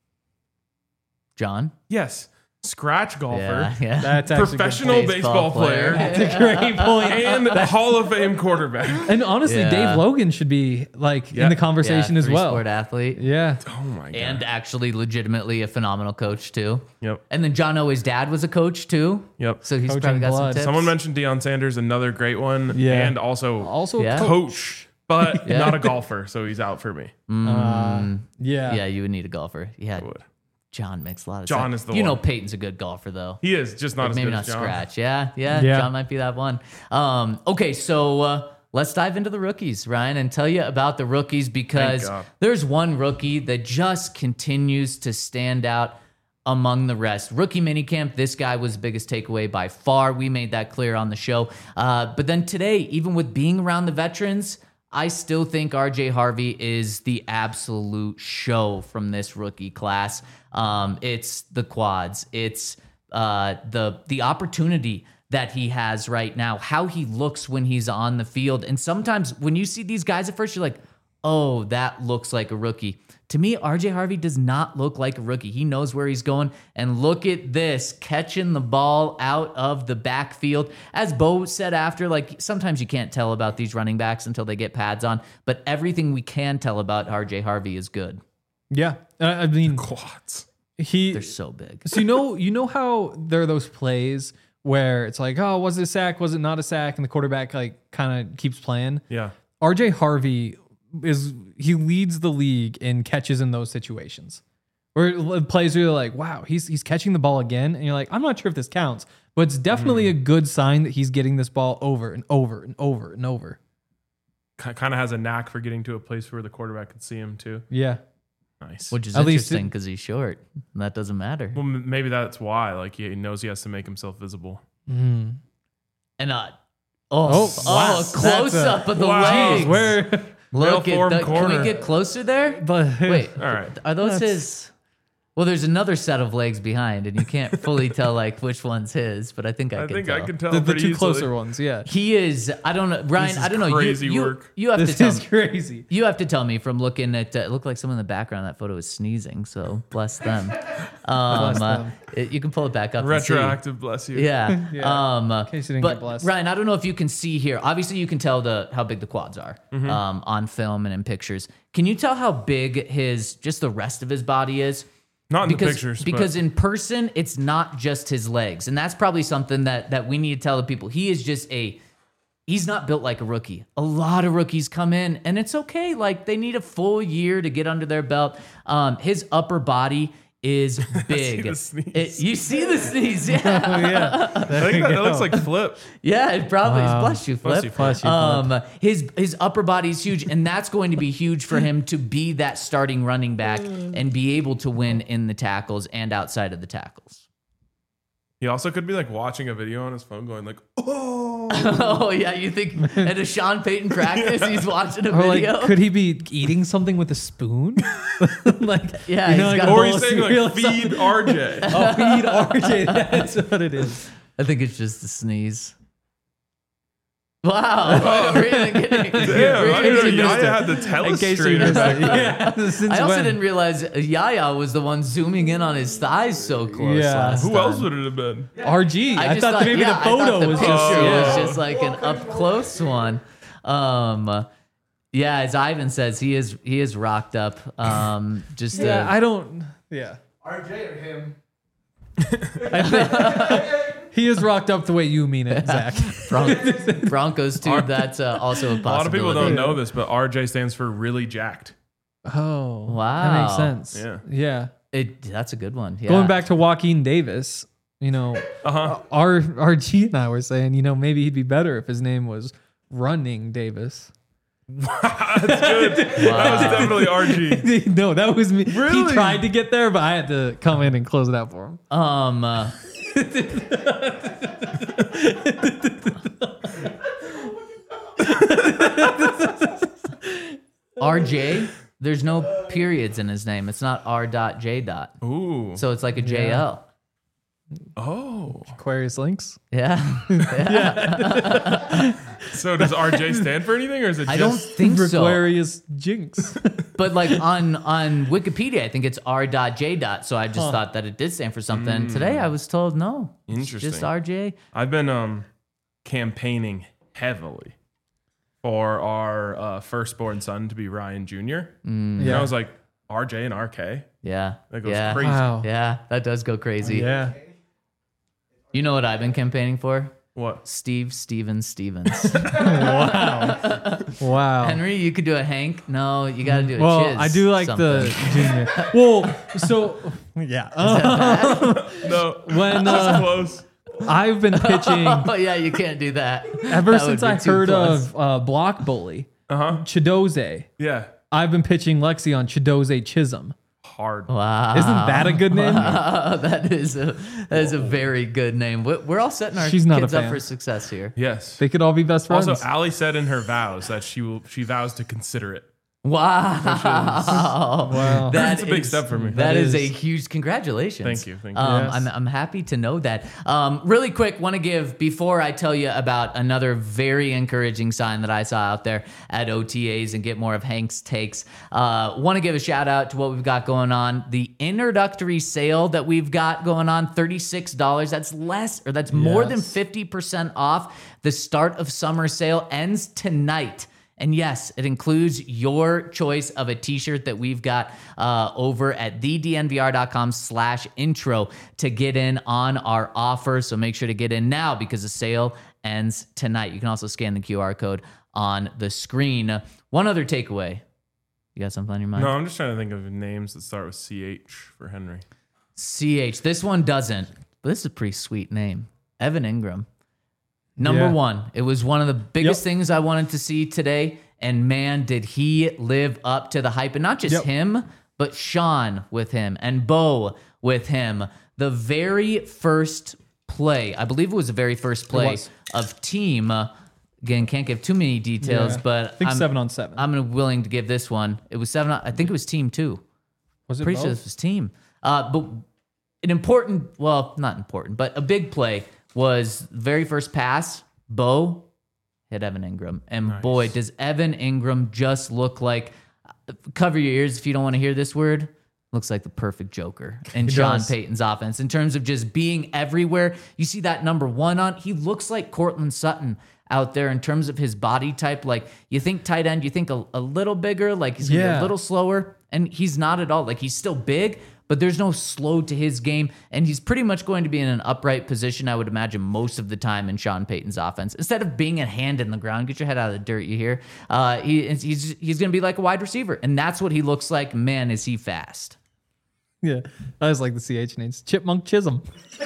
John. Yes. Scratch golfer. Yeah. That's actually good. Professional baseball player. That's a great point. And Hall of Fame quarterback. And honestly, Yeah. Dave Logan should be like in the conversation as well. Three-sport athlete. Yeah. Oh my god. And actually legitimately a phenomenal coach too. Yep. And then John Owe's dad was a coach too. Yep. So he's Coaching probably got some blood. tips. Someone mentioned Deion Sanders, another great one. Yeah. And also Also, Yeah. coach, but Yeah. not a golfer, so he's out for me. yeah. Yeah, you would need a golfer. Yeah. I would. John makes a lot of John sense. is the You know one. Peyton's a good golfer though. He is just not as Maybe good not as John. scratch. Yeah, Yeah. John might be that one. Okay, so let's dive into the rookies, Ryan, and tell you about the rookies because God. there's one rookie that just continues to stand out among the rest. Rookie minicamp, this guy was the biggest takeaway by far. We made that clear on the show. But then today, even with being around the veterans, I still think RJ Harvey is the absolute show from this rookie class. It's the quads. It's the opportunity that he has right now, how he looks when he's on the field. And sometimes when you see these guys at first, you're like, oh, that looks like a rookie. To me, RJ Harvey does not look like a rookie. He knows where he's going. And look at this, catching the ball out of the backfield. As Bo said after, like sometimes you can't tell about these running backs until they get pads on, but everything we can tell about RJ Harvey is good. Yeah. I mean, Quads. he. They're so big. So you know how there are those plays where it's like, oh, was it a sack? Was it not a sack? And the quarterback like kind of keeps playing. Yeah. RJ Harvey he leads the league in catches in those situations. Where plays where you're like, wow, he's catching the ball again. And you're like, I'm not sure if this counts, but it's definitely a good sign that he's getting this ball over and over and over and over. Kind of has a knack for getting to a place where the quarterback can see him too. Yeah. Nice. Which is At least interesting because he's short. That doesn't matter. Well, maybe that's why. Like he knows he has to make himself visible. And wow. close up of the wow. legs. Jeez, where? Look Well-formed at can corner. we get closer there? But Wait, All right. are those his? Well, there's another set of legs behind, and you can't fully tell like which one's his, but I think I can tell. I can tell the pretty two easily. closer ones, yeah. He is. I don't know, Ryan. This I is don't know. crazy you, work. You have to This tell is me. crazy. You have to tell me from looking at. It looked like someone in the background. That photo was sneezing. So bless them. them. You can pull it back up. and see. Retroactive, bless you. Yeah. Yeah. In case you didn't but get blessed. Ryan, I don't know if you can see here. Obviously, you can tell how big the quads are on film and in pictures. Can you tell how big just the rest of his body is? Not in the pictures. Because in person, it's not just his legs. And that's probably something that we need to tell the people. He is just he's not built like a rookie. A lot of rookies come in and it's okay. Like they need a full year to get under their belt. His upper body is big. the sneeze. You see the sneeze, yeah. Oh, yeah. I think that looks like Flip. Yeah, it probably is. Bless you, Flip. Bless you, His upper body is huge, and that's going to be huge for him to be that starting running back and be able to win in the tackles and outside of the tackles. He also could be like watching a video on his phone going like, oh. Oh yeah, you think at a Sean Payton practice he's watching a Or video? like, could he be eating something with a spoon? Like, Yeah, you know, he's like got a Or bowl he's of saying cereal or like, feed something. RJ. Oh, feed RJ. That's what it is. I think it's just a sneeze. Wow, really getting, Damn, I really didn't know getting- Yaya had the In case you telestrator missed back it. there. Yeah. Since I also when? didn't realize Yaya was the one zooming in on his thighs so close Yeah. last Who time. else would it have been? RG. I just thought maybe yeah, the I thought photo the was picture just. was Yeah. just like an up close one. Yeah, as Ivan says, he is rocked up. Just Yeah, I don't. Yeah. RJ or him? He is rocked up the way you mean it, Zach. Broncos too. That's also a possibility. A lot of people don't know this, but RJ stands for really jacked. Oh, Wow. that makes sense. Yeah. Yeah. That's a good one. Yeah. Going back to Joaquin Davis, you know, RG and I were saying, you know, maybe he'd be better if his name was Running Davis. That's good. That was definitely RG. No, that was me. Really? He tried to get there, but I had to come in and close it out for him. RJ. There's no periods in his name. It's not R.J. Ooh. So it's like a JL. Oh. Aquarius Links. Yeah. So does RJ stand for anything, or is it just? I don't think so. Aquarius Jinx. But like on Wikipedia, I think it's R.J. So I just thought that it did stand for something. Today I was told no. It's Interesting. just RJ. I've been campaigning heavily for our firstborn son to be Ryan Jr. And I was like, RJ and RK. Yeah. That goes yeah. crazy. Wow. Yeah, that does go crazy. Yeah. You know what I've been campaigning for? What? Steven Stevens. Wow. Henry, you could do a Hank. No, you got to do a Well, Chiz I do like something. the junior. Well, so yeah. No. When That's close. I've been pitching Oh yeah, you can't do that. ever That since would be I too heard close. of Block Bully, Uh-huh. Chidoze. Yeah. I've been pitching Lexi on Chidoze Chisholm. Hard. Wow. Isn't that a good name? that is a very good name. We're all setting our She's not a kids up fan. for success here. Yes. They could all be best friends. Also, Allie said in her vows that she vows to consider it. Wow. Wow. That's a big step for me. That is a is. huge congratulations. Thank you, thank you. Yes. I'm happy to know that. Really quick, want to give, before I tell you about another very encouraging sign that I saw out there at OTAs and get more of Hank's takes, want to give a shout out to what we've got going on. The introductory sale that we've got going on, $36. That's more than Yes. 50% off. The start of summer sale ends tonight. And yes, it includes your choice of a t-shirt that we've got over at thednvr.com/intro to get in on our offer. So make sure to get in now because the sale ends tonight. You can also scan the QR code on the screen. One other takeaway. You got something on your mind? No, I'm just trying to think of names that start with CH for Henry. CH. This one doesn't, but this is a pretty sweet name. Evan Ingram. Number one. It was one of the biggest things I wanted to see today. And man, did he live up to the hype. And not just him, but Sean with him and Bo with him. The very first play, I believe it was the very first play of team. Again, can't give too many details, but I think 7-on-7. I'm willing to give this one. It was 7. I think it was team 2. Was it Pretty both? sure this was team. But an important, well, not important, but a big play was very first pass. Bo hit Evan Ingram. And boy, does Evan Ingram just look like, cover your ears if you don't want to hear this word, looks like the perfect Joker in Sean Payton's offense in terms of just being everywhere. You see that number 1 on, he looks like Courtland Sutton out there in terms of his body type. Like you think tight end, you think a little bigger, like he's gonna be a little slower, and he's not at all. Like he's still big, but there's no slow to his game, and he's pretty much going to be in an upright position, I would imagine, most of the time in Sean Payton's offense. Instead of being a hand in the ground, get your head out of the dirt, you hear? He's going to be like a wide receiver, and that's what he looks like. Man, is he fast. Yeah, I just like the CH names. Chipmunk Chisholm.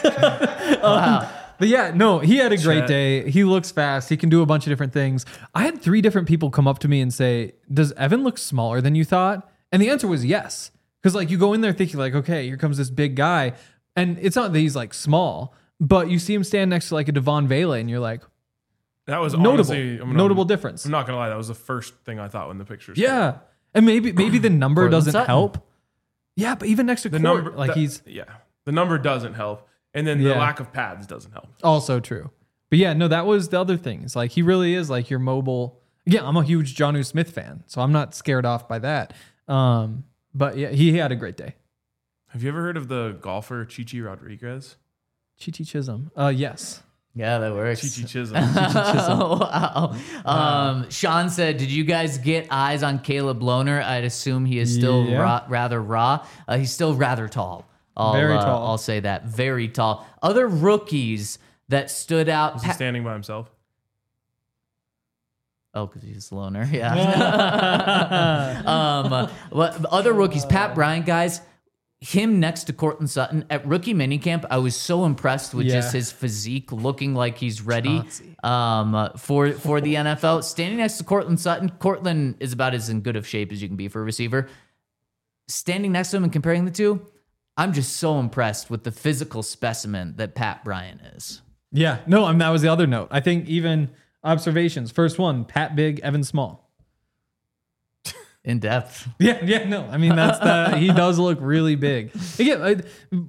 But yeah, no, he had a great day. He looks fast. He can do a bunch of different things. I had 3 different people come up to me and say, does Evan look smaller than you thought? And the answer was yes. Because like you go in there thinking like, okay, here comes this big guy. And it's not that he's like small, but you see him stand next to like a Devon Vele and you're like, that was notable difference. I'm not going to lie. That was the first thing I thought when the pictures. Yeah. And maybe the number doesn't Sutton. help. Yeah, but even next to The Court, number, like the number doesn't help. And then the lack of pads doesn't help. Also true. But yeah, no, that was the other thing. It's like he really is like your mobile. Yeah, I'm a huge Jonnu Smith fan, so I'm not scared off by that. But yeah, he had a great day. Have you ever heard of the golfer Chichi Rodriguez? Chichi Chisholm. Yes. Yeah, that works. Chichi Chisholm. Wow. Sean said, did you guys get eyes on Caleb Lohner? I'd assume he is still rather raw. He's still rather tall. Very tall. I'll say that. Very tall. Other rookies that stood out. Was he standing by himself? Oh, because he's a loner. Yeah. Other rookies, Pat Bryant, guys, him next to Courtland Sutton at rookie minicamp, I was so impressed with just his physique, looking like he's ready for the NFL. Standing next to Courtland Sutton, Courtland is about as in good of shape as you can be for a receiver. Standing next to him and comparing the two, I'm just so impressed with the physical specimen that Pat Bryant is. Yeah. No, I mean, that was the other note. I think even observations. First one, Pat big, Evan small. In depth. Yeah, no. I mean, he does look really big. Again,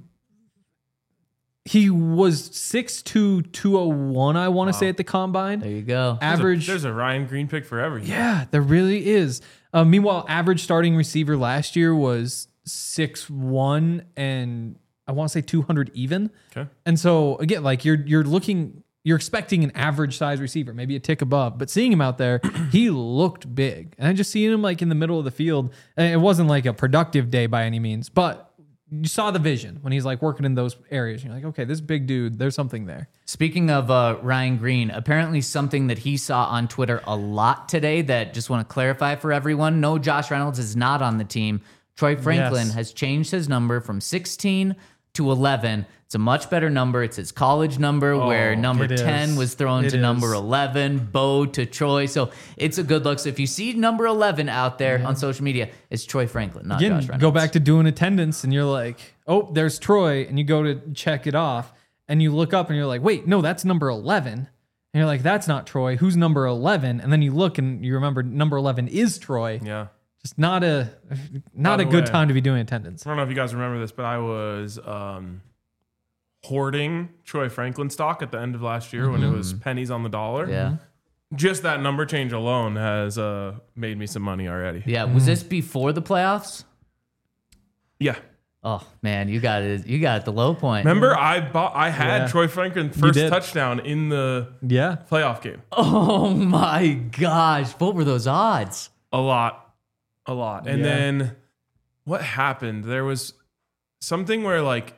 he was 6'2", 201, I want to say, at the combine. There you go. Average. There's a Ryan Green pick for everything. Yeah, there really is. Meanwhile, average starting receiver last year was 6'1", and I want to say 200 even. Okay. And so again, like you're expecting an average size receiver, maybe a tick above, but seeing him out there, he looked big. And I just seeing him like in the middle of the field, and it wasn't like a productive day by any means, but you saw the vision when he's like working in those areas. You're like, okay, this big dude, there's something there. Speaking of Ryan Green, apparently something that he saw on Twitter a lot today that just want to clarify for everyone. No, Josh Reynolds is not on the team. Troy Franklin has changed his number from 16 to 11. It's a much better number. It's his college number where number 10 was thrown to number 11, Bo to Troy. So it's a good look. So if you see number 11 out there on social media, it's Troy Franklin, not Josh Reynolds. Go back to doing attendance and you're like, oh, there's Troy. And you go to check it off and you look up and you're like, wait, no, that's number 11. And you're like, that's not Troy. Who's number 11? And then you look and you remember number 11 is Troy. Yeah. Just not a good time to be doing attendance. I don't know if you guys remember this, but I was hoarding Troy Franklin stock at the end of last year when it was pennies on the dollar. Yeah. Just that number change alone has made me some money already. Yeah. Was this before the playoffs? Yeah. Oh man, you got it. You got it at the low point. Remember, I had Yeah. Troy Franklin first did. touchdown in the Yeah. playoff game. Oh my gosh, what were those odds? A lot. And Yeah. then what happened? There was something where like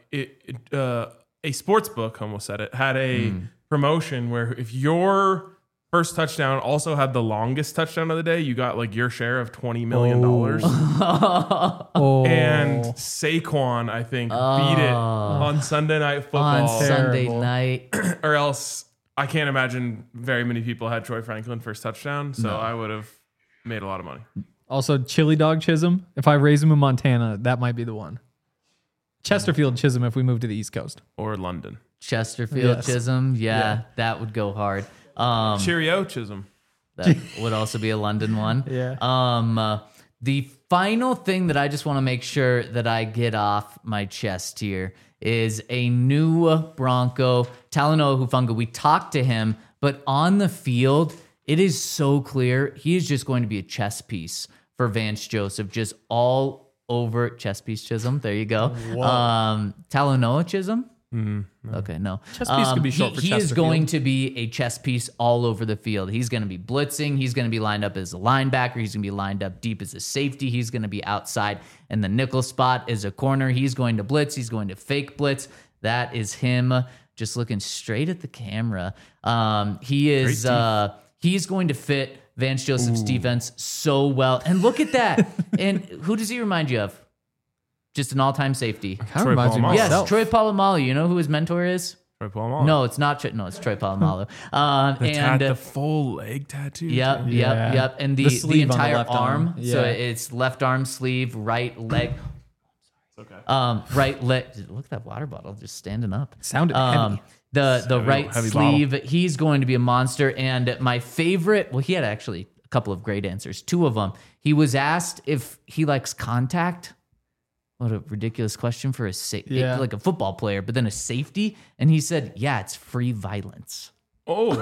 a sports book, almost said it, had a promotion where if your first touchdown also had the longest touchdown of the day, you got like your share of $20 million. Oh. And Saquon, I think, beat it on Sunday Night Football. On Sunday Terrible. night. Or else I can't imagine very many people had Troy Franklin first touchdown. So I would have made a lot of money. Also, Chili Dog Chisholm. If I raise him in Montana, that might be the one. Chesterfield Chisholm if we move to the East Coast. Or London. Chesterfield Yes. Chisholm. Yeah, that would go hard. Cheerio, Chisholm. That would also be a London one. Yeah. The final thing that I just want to make sure that I get off my chest here is a new Bronco, Talanoa Hufanga. We talked to him, but on the field, it is so clear he is just going to be a chess piece for Vance Joseph, just all over chess piece Chisholm. There you go. Talanoa Chisholm. Okay, no. Chess piece could be short for He is Chesterfield. going to be a chess piece all over the field. He's going to be blitzing. He's going to be lined up as a linebacker. He's going to be lined up deep as a safety. He's going to be outside in the nickel spot as a corner. He's going to blitz. He's going to fake blitz. That is him just looking straight at the camera. He's going to fit Vance Joseph's defense so well. And look at that. And who does he remind you of? Just an all-time safety. Kind of reminds me of Polamalu. Yes, myself. Troy Polamalu. You know who his mentor is? Troy Polamalu. No, it's not. No, it's Troy Polamalu. The full leg tattoo. Yep. And the sleeve on the entire left arm. arm. So Yeah. it's left arm sleeve, right leg. Okay. Right leg. Look at that water bottle just standing up. Sounded heavy. The Heavy- right heavy sleeve. He's going to be a monster. And my favorite. Well, he had actually a couple of great answers. Two of them. He was asked if he likes contact. What a ridiculous question for Yeah. like a football player, but then a safety. And he said, yeah, it's free violence. Oh.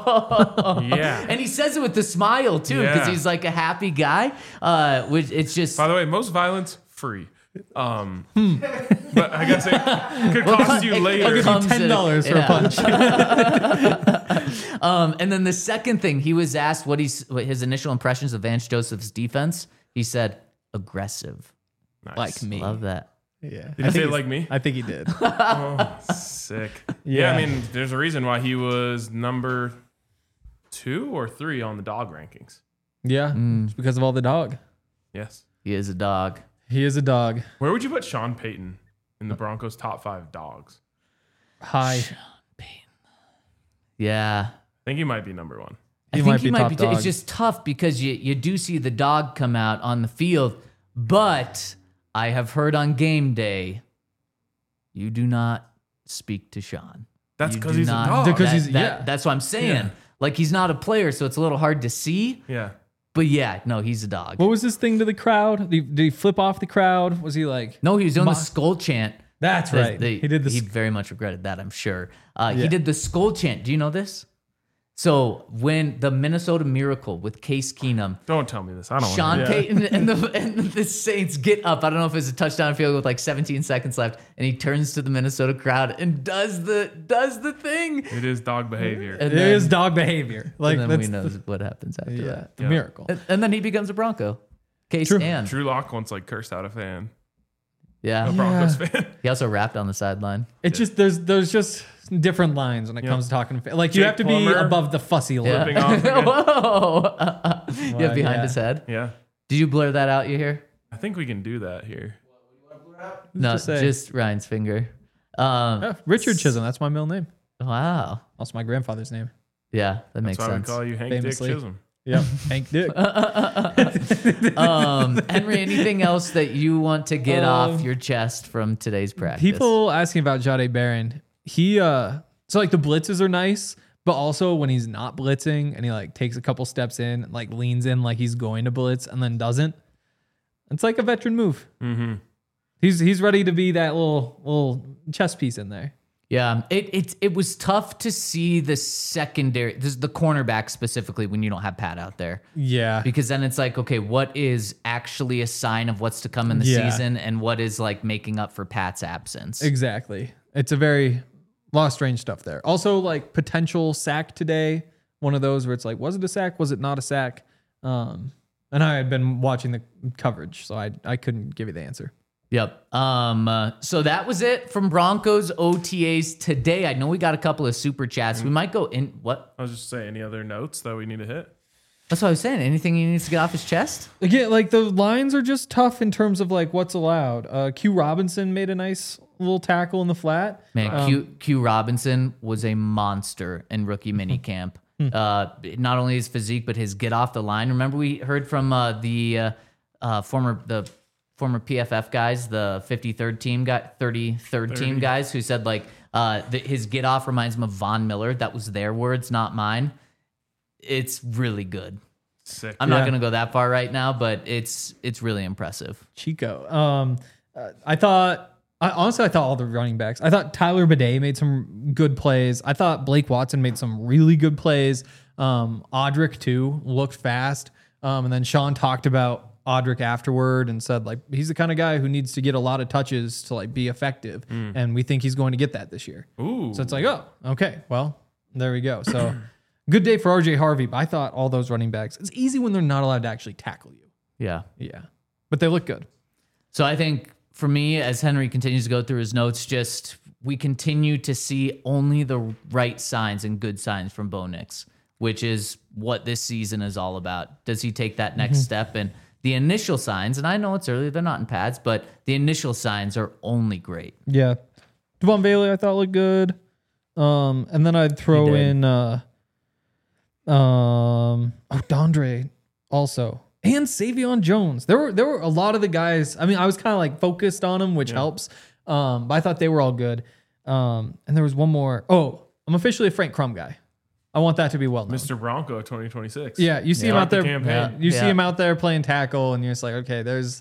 Yeah. And he says it with a smile too, because Yeah. he's like a happy guy. Which it's just By the way, most violence, free. But I guess it could cost you later. I'll give you comes $10 for a punch. And then the second thing, he was asked what his initial impressions of Vance Joseph's defense. He said aggressive. Nice. Like me. Love that. Yeah. Did he say it like me? I think he did. Sick. Yeah. I mean, there's a reason why he was number 2 or 3 on the dog rankings. Yeah. It's because of all the dog. Yes. He is a dog. He is a dog. Where would you put Sean Payton in the Broncos' top 5 dogs? High. Yeah. I think he might be number 1. He I might think he be might top be. dog. It's just tough because you do see the dog come out on the field, but I have heard on game day, you do not speak to Sean. That's You 'cause do he's a not- dog. Because that- he's- that- yeah. That's what I'm saying. Yeah. Like he's not a player, so it's a little hard to see. Yeah. But yeah, no, he's a dog. What was his thing to the crowd? Did he flip off the crowd? Was he like? No, he was doing Ma- the skull chant. That's right. He did the. He very much regretted that, I'm sure. He did the skull chant. Do you know this? So when the Minnesota Miracle with Case Keenum, Don't tell me this. I don't Sean want to. Payton and the Saints get up. I don't know if it's a touchdown field goal with like 17 seconds left, and he turns to the Minnesota crowd and does the thing. It is dog behavior. And It is dog behavior. Like and then we that's know what happens after yeah, that. the Yeah. miracle. And then he becomes a Bronco. Case True. and Drew Lock once like cursed out a fan, a yeah. Broncos fan. He also rapped on the sideline. It just there's just different lines when it comes to talking. Like you Jake have to be Plummer. above the fussy line. Flipping off again. Whoa! You have behind yeah. his head. Yeah. Did you blur that out? You hear? I think we can do that here. No, to say? just Ryan's finger. Richard Chisholm. That's my middle name. Wow. Also my grandfather's name. Yeah, that makes That's why sense. we call you Hank Famously. Dick Chisholm. Yep. Hank Dick. Henry, anything else that you want to get off your chest from today's practice? People asking about Jahdae Barron. He so like the blitzes are nice, but also when he's not blitzing and he like takes a couple steps in, and, like leans in like he's going to blitz and then doesn't. It's like a veteran move. Mm-hmm. He's ready to be that little chess piece in there. Yeah, it was tough to see the secondary, the cornerback specifically when you don't have Pat out there. Yeah. Because then it's like, okay, what is actually a sign of what's to come in the season and what is like making up for Pat's absence? Exactly. It's a very lot of strange stuff there. Also, like potential sack today. One of those where it's like, was it a sack? Was it not a sack? And I had been watching the coverage, so I couldn't give you the answer. Yep. So that was it from Broncos OTAs today. I know we got a couple of super chats. We might go in. What? I was just saying, any other notes that we need to hit? That's what I was saying. Anything he needs to get off his chest? Again, like the lines are just tough in terms of like what's allowed. Q Robinson made a nice little tackle in the flat. Man, Q Robinson was a monster in rookie minicamp. Not only his physique, but his get off the line. Remember we heard from the former PFF guys, the 53rd team guy, 33rd team guys, who said like his get off reminds him of Von Miller. That was their words, not mine. It's really good. Sick. I'm not gonna go that far right now, but it's really impressive. Chico. I thought all the running backs. I thought Tyler Bidet made some good plays. I thought Blake Watson made some really good plays. Audric too looked fast. And then Sean talked about Audric afterward and said like he's the kind of guy who needs to get a lot of touches to like be effective, and we think he's going to get that this year. Ooh. So it's like, oh, okay, well, there we go. So good day for RJ Harvey, but I thought all those running backs, it's easy when they're not allowed to actually tackle you. Yeah. But they look good. So I think for me, as Henry continues to go through his notes, just we continue to see only the right signs and good signs from Bo Nix, which is what this season is all about. Does he take that next step? And the initial signs, and I know it's early, they're not in pads, but the initial signs are only great. Yeah. Devon Bailey, I thought looked good. And then I'd throw in Dondre also. And Savion Jones. There were a lot of the guys. I mean, I was kind of like focused on them, which helps. But I thought they were all good. And there was one more. Oh, I'm officially a Frank Crum guy. I want that to be well known. Mr. Bronco 2026. Yeah, you see him out there. Campaign. You see him out there playing tackle, and you're just like, okay,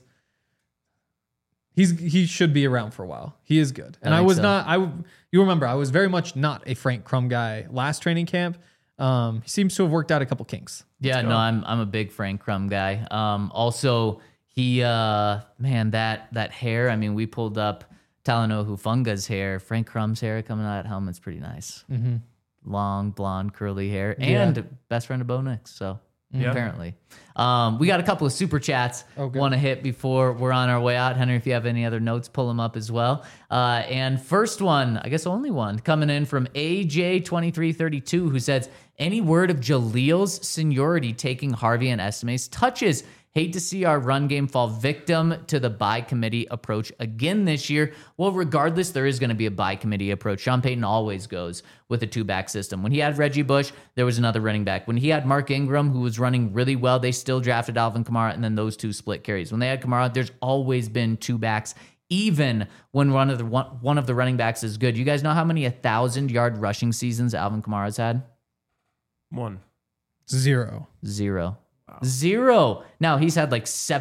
he should be around for a while. He is good, and I was not. You remember, I was very much not a Frank Crum guy last training camp. He seems to have worked out a couple kinks. Yeah, no, I'm a big Frank Crum guy. Also, he that hair. I mean, we pulled up Talanoa Hufunga's hair. Frank Crum's hair coming out of that helmet's pretty nice. Mm-hmm. Long, blonde, curly hair, and best friend of Bo Nix. So apparently, we got a couple of super chats want to hit before we're on our way out. Henry, if you have any other notes, pull them up as well. And first one, I guess only one, coming in from AJ2332, who says, any word of Jaleel's seniority taking Harvey and Estime's touches? Hate to see our run game fall victim to the by committee approach again this year. Well, regardless, there is going to be a by committee approach. Sean Payton always goes with a two-back system. When he had Reggie Bush, there was another running back. When he had Mark Ingram, who was running really well, they still drafted Alvin Kamara, and then those two split carries. When they had Kamara, there's always been two backs, even when one of the running backs is good. You guys know how many 1,000-yard rushing seasons Alvin Kamara's had? 1. 0. Wow. 0. Now he's had like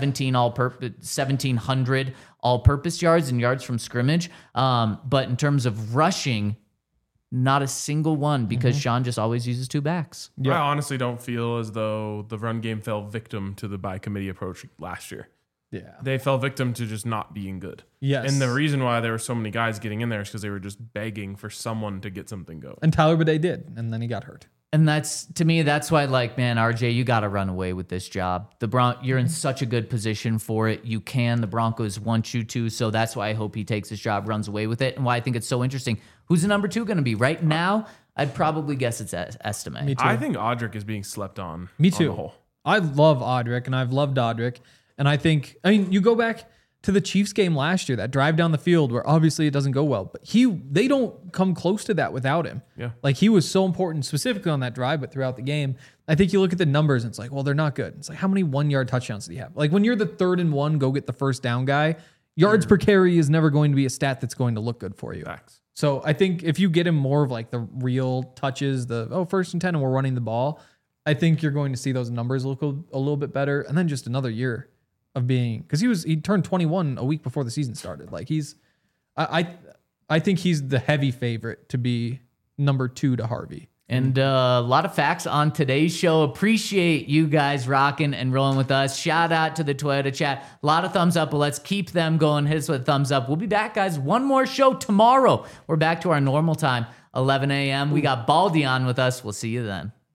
1,700 all-purpose yards and yards from scrimmage. But in terms of rushing, not a single one because Sean just always uses two backs. I honestly don't feel as though the run game fell victim to the by committee approach last year. Yeah. They fell victim to just not being good. Yes. And the reason why there were so many guys getting in there is because they were just begging for someone to get something going. And Tyler Bidet did, and then he got hurt. And that's, to me, that's why, like, man, RJ, you got to run away with this job. You're in such a good position for it. You can. The Broncos want you to. So that's why I hope he takes his job, runs away with it, and why I think it's so interesting. Who's the number 2 going to be? Right now, I'd probably guess it's Estime. Me too. I think Audric is being slept on. Me too. On the whole. I love Audric, and I've loved Audric. And I mean, you go back to the Chiefs game last year, that drive down the field where obviously it doesn't go well, but they don't come close to that without him. Yeah. Like he was so important specifically on that drive, but throughout the game, I think you look at the numbers and it's like, well, they're not good. It's like, how many 1-yard touchdowns do you have? Like when you're the 3rd and 1, go get the first down guy, yards per carry is never going to be a stat that's going to look good for you. Facts. So I think if you get him more of like the real touches, 1st and 10 and we're running the ball, I think you're going to see those numbers look a little bit better. And then just another year of being, because he turned 21 a week before the season started. Like I think he's the heavy favorite to be number 2 to Harvey. And a lot of facts on today's show. Appreciate you guys rocking and rolling with us. Shout out to the Toyota chat. A lot of thumbs up, but let's keep them going. Hit us with a thumbs up. We'll be back, guys. One more show tomorrow. We're back to our normal time, 11 a.m. We got Baldy on with us. We'll see you then.